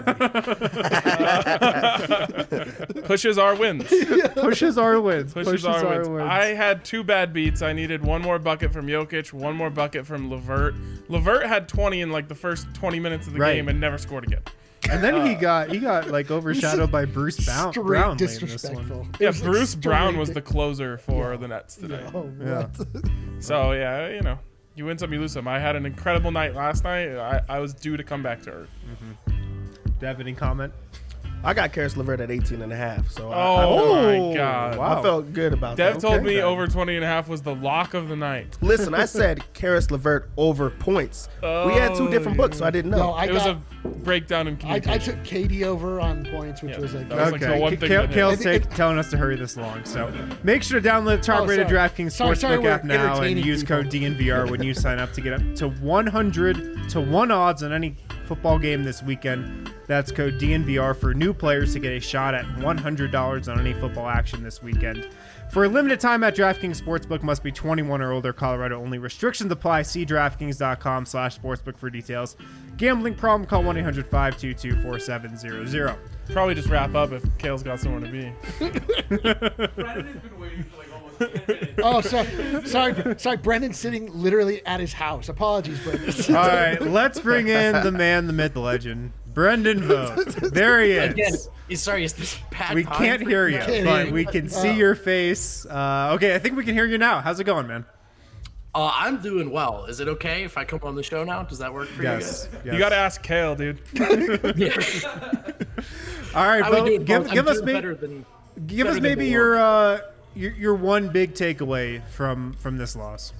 Pushes our wins. Pushes our wins. Pushes our wins. I had 2 bad beats. I needed 1 more bucket from Jokic, 1 more bucket from LeVert. LeVert had 20 in like the first 20 minutes of the Right. game and never scored again. And then he got like overshadowed by Bruce Brown Straight late in this one. disrespectful. It Yeah, was Bruce Brown was straight- the closer for the Nets today. Oh, Yeah. what? So, yeah, you win some, you lose some. I had an incredible night last night. I was due to come back to earth. Do you have any comment? I got Karis LeVert at 18.5, so Oh, Oh, my God. wow. I felt good about Dev that. told me then. over 20.5 was the lock of the night. Listen, I said Karis LeVert over points. We had 2 different books, so I didn't know. No, I It was got. a breakdown in I communication. took Katie over on points, which Yeah, was like. that was like the one thing that hit. Kale's And it- telling us to hurry this along. So make sure to download the top-rated sorry. DraftKings Sorry, Sportsbook we're app now and entertaining use people. code DNVR when you sign up to get up to 100 to 1 odds on any football game this weekend. That's code DNVR for new players to get a shot at $100 on any football action this weekend. For a limited time at DraftKings Sportsbook, must be 21 or older, Colorado only. Restrictions apply. See DraftKings.com/sportsbook for details. Gambling problem? Call 1-800-522-4700. Probably just wrap up if Kale's got somewhere to be. Brandon has been waiting for like almost 10 minutes. Oh, sorry. Brendan's sitting literally at his house. Apologies, Brendan. All right, let's bring in the man, the myth, the legend, Brendan Vogt. There he Again, is. sorry, is this bad We time can't for hear you? you, Can't but hear you. we can see your face. Okay, I think we can hear you now. How's it going, man? I'm doing well. Is it okay if I come on the show now? Does that work for Yes. You got to ask Kale, dude. you guys? All right, How we Vogt, doing, give folks? I'm us doing maybe better than give us better than maybe Milwaukee. your one big takeaway from this loss.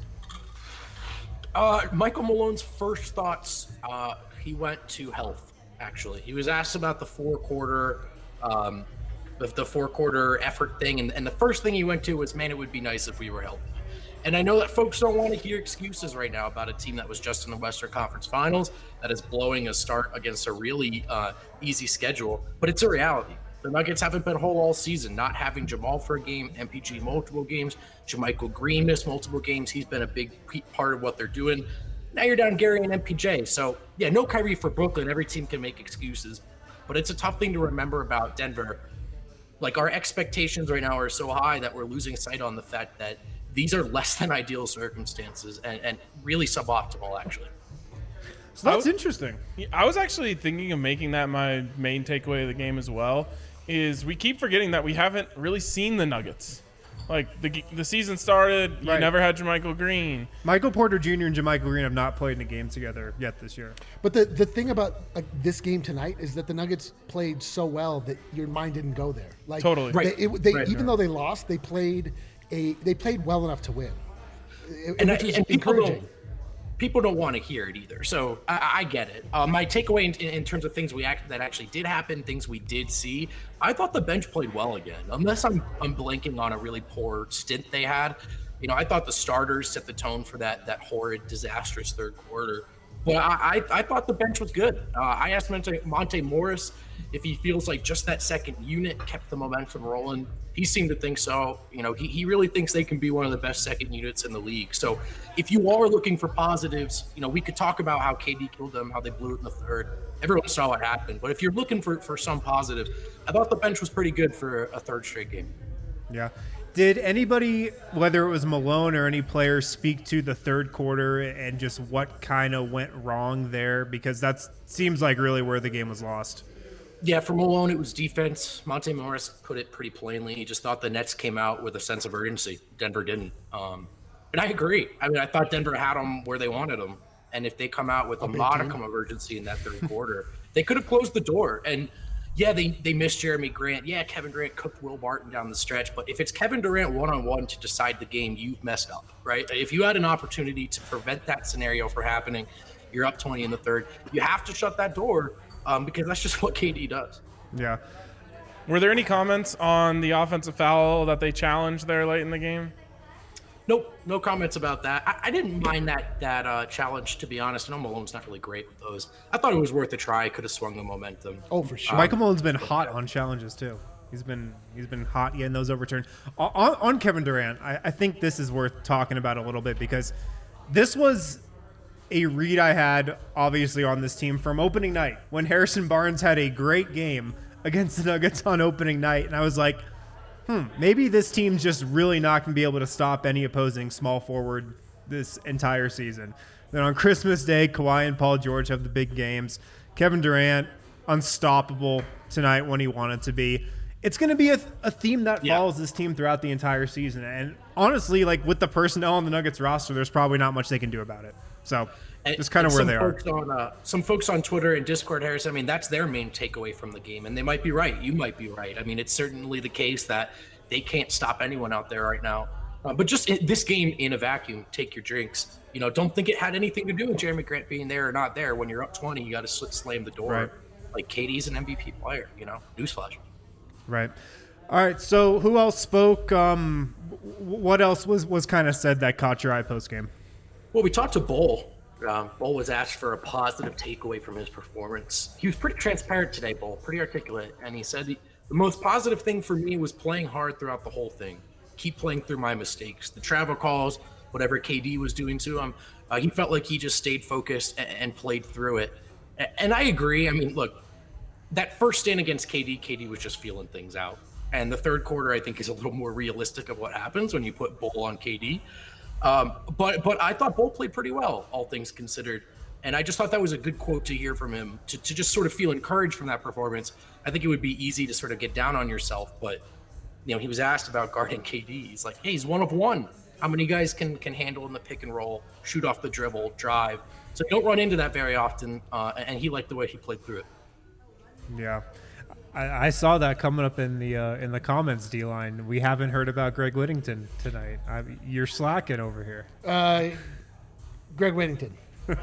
Michael Malone's first thoughts. He went to health. Actually, he was asked about the 4-quarter, the 4-quarter effort thing, and the first thing he went to was, "Man, it would be nice if we were healthy." And I know that folks don't want to hear excuses right now about a team that was just in the Western Conference Finals, that is blowing a start against a really easy schedule, but it's a reality. The Nuggets haven't been whole all season, not having Jamal for a game, MPG multiple games, JaMychal Green missed multiple games. He's been a big part of what they're doing. Now you're down Gary and MPJ. So, yeah, no Kyrie for Brooklyn. Every team can make excuses. But it's a tough thing to remember about Denver. Like, our expectations right now are so high that we're losing sight on the fact that these are less than ideal circumstances and really suboptimal, actually. So that's interesting. I was actually thinking of making that my main takeaway of the game as well. Is we keep forgetting that we haven't really seen the Nuggets. Like the season started, you Right. never had JaMychal Green. Michael Porter Jr. and JaMychal Green have not played in a game together yet this year. But the thing about this game tonight is that the Nuggets played so well that your mind didn't go there. Like Totally. Right. Even though they lost, they played well enough to win, And which was people encouraging. people don't want to hear it either. So I get it. My takeaway in terms of things that actually did happen, things we did see, I thought the bench played well again. Unless I'm blanking on a really poor stint they had. You know, I thought the starters set the tone for that horrid, disastrous third quarter. But I thought the bench was good. I asked Monte Morris if he feels like just that second unit kept the momentum rolling. He seemed to think so. You know, he really thinks they can be one of the best second units in the league. So if you are looking for positives, you know, we could talk about how KD killed them, how they blew it in the third. Everyone saw what happened. But if you're looking for some positives, I thought the bench was pretty good for a third straight game. Yeah. Did anybody, whether it was Malone or any player, speak to the third quarter and just what kind of went wrong there? Because that seems like really where the game was lost. Yeah, for Malone, it was defense. Monte Morris put it pretty plainly. He just thought the Nets came out with a sense of urgency. Denver didn't. And I agree. I mean, I thought Denver had them where they wanted them. And if they come out with a modicum of urgency in that third quarter, they could have closed the door. And yeah, they missed Jeremy Grant. Yeah, Kevin Durant cooked Will Barton down the stretch. But if it's Kevin Durant one-on-one to decide the game, you've messed up, right? If you had an opportunity to prevent that scenario from happening, you're up 20 in the third. You have to shut that door because that's just what KD does. Yeah. Were there any comments on the offensive foul that they challenged there late in the game? Nope, no comments about that. I didn't mind that challenge, to be honest. I know Malone's not really great with those. I thought it was worth a try. Could have swung the momentum. Oh, for sure. Michael Malone's been hot on challenges too. He's been hot getting those overturned. On Kevin Durant, I think this is worth talking about a little bit because this was a read I had obviously on this team from opening night when Harrison Barnes had a great game against the Nuggets on opening night, and I was like, maybe this team's just really not going to be able to stop any opposing small forward this entire season. Then on Christmas Day, Kawhi and Paul George have the big games. Kevin Durant, unstoppable tonight when he wanted to be. It's going to be a theme that follows this team throughout the entire season. And honestly, like with the personnel on the Nuggets roster, there's probably not much they can do about it. So just kind of where they are. Some folks on Twitter and Discord, Harris, I mean, that's their main takeaway from the game. And they might be right. You might be right. I mean, it's certainly the case that they can't stop anyone out there right now. But just this game in a vacuum, take your drinks. You know, don't think it had anything to do with Jeremy Grant being there or not there. When you're up 20, you got to slam the door. Right. Like, KD's an MVP player, you know, newsflash. Right. All right. So who else spoke? What else was kind of said that caught your eye post game? Well, we talked to Bull. Bull was asked for a positive takeaway from his performance. He was pretty transparent today, Bull, pretty articulate. And he said the most positive thing for me was playing hard throughout the whole thing. Keep playing through my mistakes. The travel calls, whatever KD was doing to him, he felt like he just stayed focused and played through it. And I agree. I mean, look, that first stand against KD was just feeling things out. And the third quarter, I think, is a little more realistic of what happens when you put Bull on KD. But I thought Bull played pretty well, all things considered. And I just thought that was a good quote to hear from him, to just sort of feel encouraged from that performance. I think it would be easy to sort of get down on yourself, but you know, he was asked about guarding KD. He's like, hey, he's one of one. How many guys can handle in the pick and roll, shoot off the dribble, drive? So you don't run into that very often, and he liked the way he played through it. Yeah. I saw that coming up in the comments, D-line. We haven't heard about Greg Whittington tonight. You're slacking over here. Greg Whittington.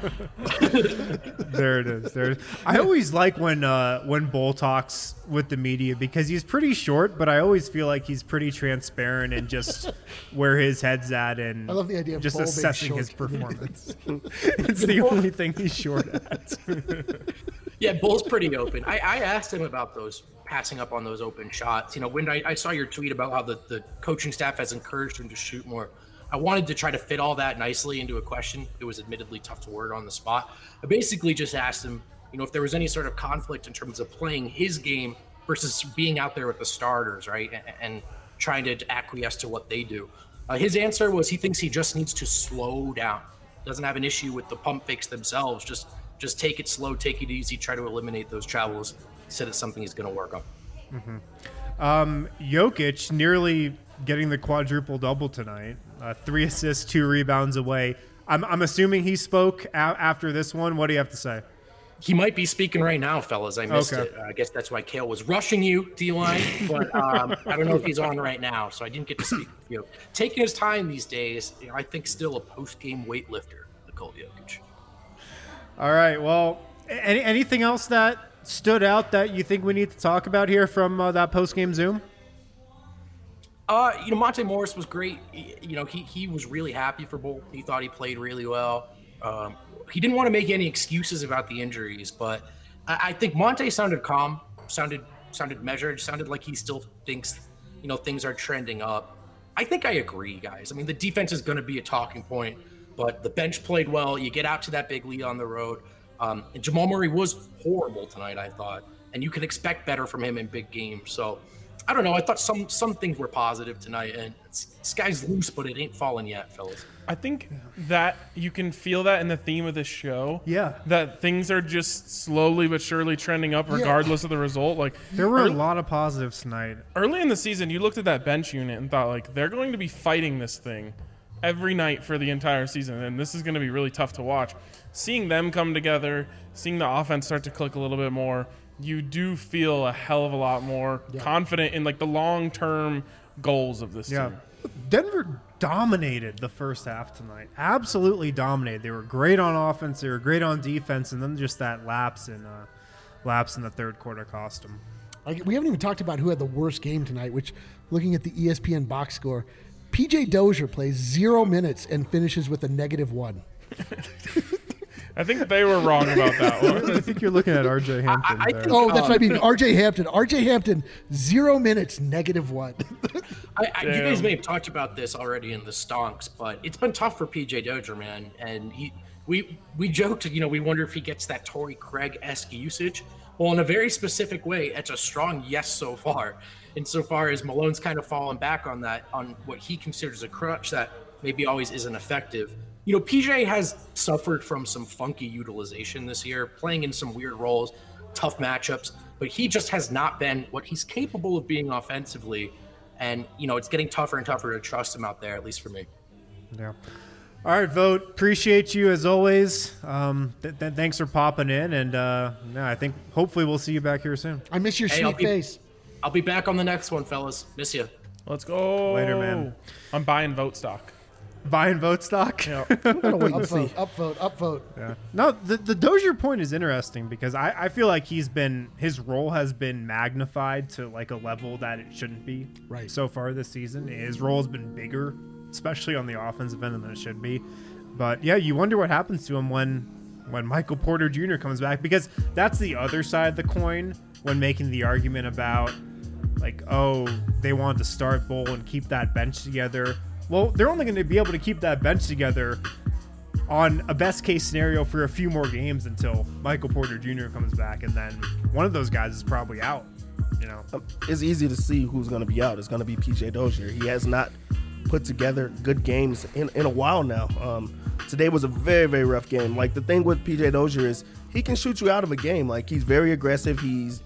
There it is. I always like when Bull talks with the media because he's pretty short, but I always feel like he's pretty transparent and just where his head's at, and I love the idea of just Bull assessing being his short. performance. It's the only thing he's short at. Yeah, Bull's pretty open. I asked him about those passing up on those open shots. You know, when I saw your tweet about how the coaching staff has encouraged him to shoot more. I wanted to try to fit all that nicely into a question. It was admittedly tough to word on the spot. I basically just asked him, you know, if there was any sort of conflict in terms of playing his game versus being out there with the starters, right, and trying to acquiesce to what they do. His answer was he thinks he just needs to slow down. Doesn't have an issue with the pump fakes themselves. Just take it slow, take it easy, try to eliminate those travels. He said it's something he's going to work on. Jokic nearly getting the quadruple double tonight. 3 assists, 2 rebounds away. I'm assuming he spoke after this one. What do you have to say? He might be speaking right now, fellas. I missed it. I guess that's why Kale was rushing you, D-line. But I don't know if he's on right now, so I didn't get to speak with you. Taking his time these days, you know, I think still a post-game weightlifter, Nikola Jokic. All right. Well, anything else that stood out that you think we need to talk about here from that post-game Zoom? You know, Monte Morris was great. You know, he was really happy for Bull. He thought he played really well. He didn't want to make any excuses about the injuries, but I think Monte sounded calm, sounded measured, sounded like he still thinks, you know, things are trending up. I think I agree, guys. I mean, the defense is going to be a talking point, but the bench played well. You get out to that big lead on the road. And Jamal Murray was horrible tonight, I thought, and you can expect better from him in big games. So I don't know. I thought some things were positive tonight, and sky's loose, but it ain't falling yet, fellas. I think that you can feel that in the theme of this show. Yeah. That things are just slowly but surely trending up regardless of the result. Like there were a lot of positives tonight. Early in the season, you looked at that bench unit and thought, like, they're going to be fighting this thing every night for the entire season, and this is going to be really tough to watch. Seeing them come together, seeing the offense start to click a little bit more, you do feel a hell of a lot more confident in like the long-term goals of this team. Denver dominated the first half tonight. Absolutely dominated. They were great on offense. They were great on defense, and then just that lapse in the third quarter cost them. We haven't even talked about who had the worst game tonight, which, looking at the ESPN box score, PJ Dozier plays 0 minutes and finishes with a -1. I think they were wrong about that one. I think you're looking at RJ Hampton there. Oh, that's what I mean. RJ Hampton. RJ Hampton, 0 minutes, -1. You guys may have talked about this already in the stonks, but it's been tough for PJ Dozier, man. And we joked, we wonder if he gets that Torrey Craig-esque usage. Well, in a very specific way, it's a strong yes so far. Insofar as Malone's kind of fallen back on that, on what he considers a crutch that maybe always isn't effective. PJ has suffered from some funky utilization this year, playing in some weird roles, tough matchups, but he just has not been what he's capable of being offensively. And, it's getting tougher and tougher to trust him out there, at least for me. Yeah. All right, Vote. Appreciate you as always. Thanks for popping in. And I think hopefully we'll see you back here soon. I miss your sweet face. I'll be back on the next one, fellas. Miss you. Let's go. Later, man. I'm buying Vote stock. Buying Vote stock? Yeah. I'm gonna wait and see. Upvote. Yeah. No, the Dozier point is interesting because I feel like his role has been magnified to like a level that it shouldn't be. Right. So far this season, his role has been bigger, especially on the offensive end than it should be. But yeah, you wonder what happens to him when Michael Porter Jr. comes back, because that's the other side of the coin when making the argument about like, oh, they want to start Bull and keep that bench together. Well, they're only going to be able to keep that bench together on a best case scenario for a few more games until Michael Porter Jr. comes back, and then one of those guys is probably out. It's easy to see who's going to be out. It's going to be PJ Dozier. He has not put together good games in a while now. Today was a very, very rough game. Like, the thing with PJ Dozier is he can shoot you out of a game. Like, he's very aggressive. He's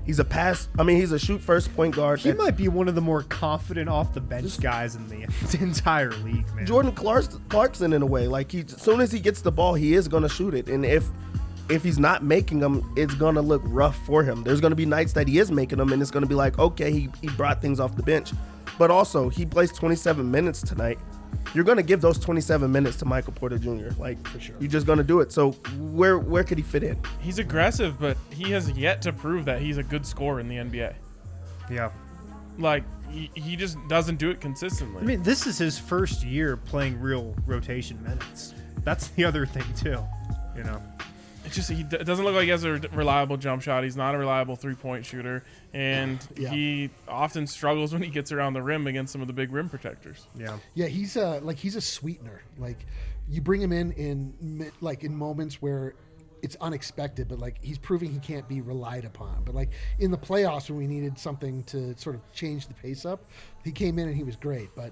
a shoot first point guard. He might be one of the more confident off the bench guys in the entire league, man. Jordan Clarkson in a way. Like, as soon as he gets the ball, he is going to shoot it. And if he's not making them, it's going to look rough for him. There's going to be nights that he is making them, and it's going to be like, okay, he brought things off the bench. But also, he plays 27 minutes tonight. You're going to give those 27 minutes to Michael Porter Jr. Like, for sure. You're just going to do it. So where could he fit in? He's aggressive, but he has yet to prove that he's a good scorer in the NBA. Yeah. Like, he just doesn't do it consistently. I mean, this is his first year playing real rotation minutes. That's the other thing, too. It's just it doesn't look like he has a reliable jump shot. He's not a reliable three-point shooter, and he often struggles when he gets around the rim against some of the big rim protectors. Yeah, he's a sweetener. Like, you bring him in moments where it's unexpected, but like he's proving he can't be relied upon. But like in the playoffs when we needed something to sort of change the pace up, he came in and he was great. But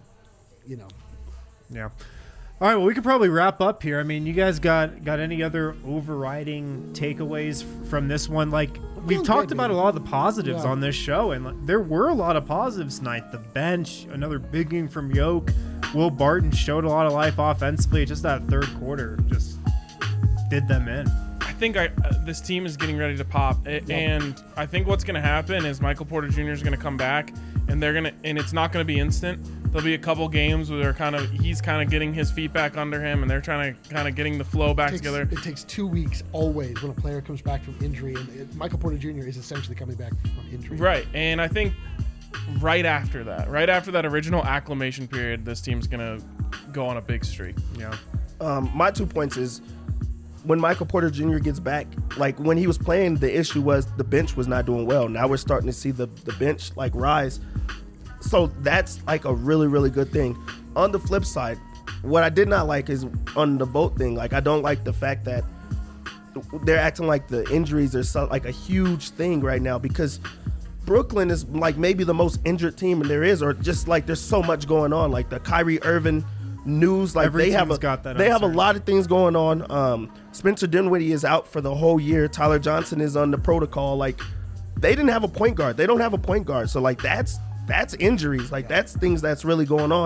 yeah. All right, well, we could probably wrap up here. I mean, you guys got any other overriding takeaways from this one? Like, we've talked about a lot of the positives on this show, and like, there were a lot of positives tonight. The bench, another big game from Yoke. Will Barton showed a lot of life offensively. Just that third quarter just did them in. I think this team is getting ready to pop, and I think what's going to happen is Michael Porter Jr. is going to come back, and it's not going to be instant. There'll be a couple games where he's kind of getting his feet back under him, and they're trying to kind of getting the flow back together. It takes 2 weeks always when a player comes back from injury, and Michael Porter Jr. is essentially coming back from injury. Right, and I think right after that original acclimation period, this team's going to go on a big streak. Yeah. My 2 points is when Michael Porter Jr. gets back, like when he was playing, the issue was the bench was not doing well. Now we're starting to see the bench like rise. So that's like a really, really good thing. On the flip side, what I did not like is on the Vote thing. Like, I don't like the fact that they're acting like the injuries are like a huge thing right now, because Brooklyn is like maybe the most injured team there is, or just like there's so much going on. Like the Kyrie Irving news, like they have a lot of things going on. Spencer Dinwiddie is out for the whole year. Tyler Johnson is on the protocol. Like, they didn't have a point guard. They don't have a point guard. So like that's injuries. Like, that's things that's really going on.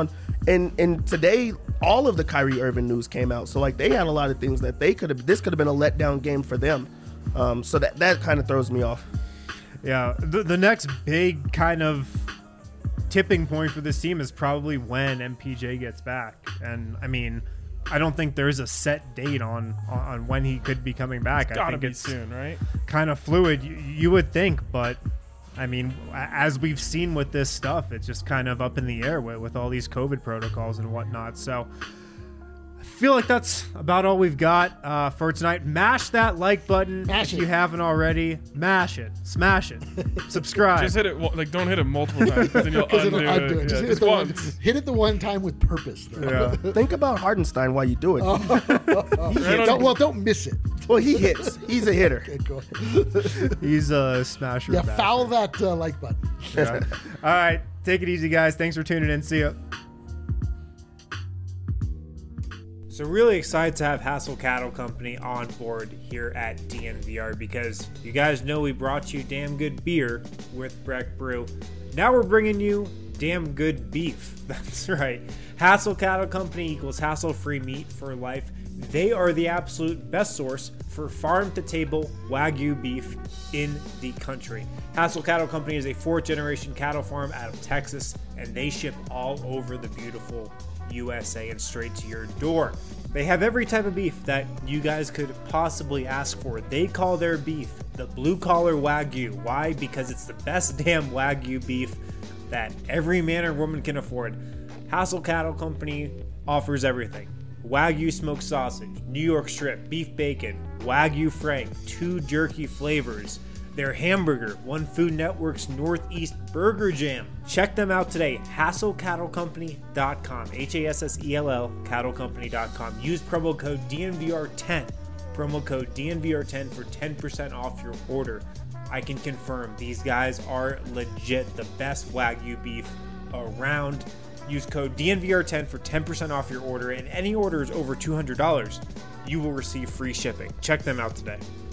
And today, all of the Kyrie Irving news came out. So, like, they had a lot of things that this could have been a letdown game for them. So that kind of throws me off. Yeah, the next big kind of tipping point for this team is probably when MPJ gets back. And, I mean, I don't think there's a set date on when he could be coming back. It's gotta I think be it's soon, right? kind of fluid. You would think, but I mean, as we've seen with this stuff, it's just kind of up in the air with all these COVID protocols and whatnot. So I feel like that's about all we've got for tonight. Mash that like button Mash if it. you haven't already. Mash it, smash it, subscribe. Just hit it. Like, don't hit it multiple times, because then you'll 'Cause undo it'll undo it. it. Just Yeah, hit it just the once. hit it the one time with purpose. Though. Yeah. Think about Hardenstein while you do it. Don't miss it. Well, he hits. He's a hitter. Okay, cool. He's a smasher. Yeah, basher. foul that like button. Yeah. All right, take it easy, guys. Thanks for tuning in. See ya. So really excited to have Hassel Cattle Company on board here at DNVR, because you guys know we brought you damn good beer with Breck Brew. Now we're bringing you damn good beef. That's right. Hassel Cattle Company equals hassle-free meat for life. They are the absolute best source for farm-to-table Wagyu beef in the country. Hassel Cattle Company is a 4th-generation cattle farm out of Texas, and they ship all over the beautiful USA and straight to your door. They have every type of beef that you guys could possibly ask for. They call their beef the blue-collar Wagyu. Why? Because it's the best damn Wagyu beef that every man or woman can afford. Hassel Cattle Company offers everything. Wagyu smoked sausage, New York strip, beef bacon, Wagyu Frank, 2 jerky flavors, their hamburger, One Food Network's Northeast Burger Jam. Check them out today, HassellCattleCompany.com, HASSELL, cattlecompany.com. Use promo code DNVR10, promo code DNVR10 for 10% off your order. I can confirm these guys are legit the best Wagyu beef around. Use code DNVR10 for 10% off your order, and any orders over $200, you will receive free shipping. Check them out today.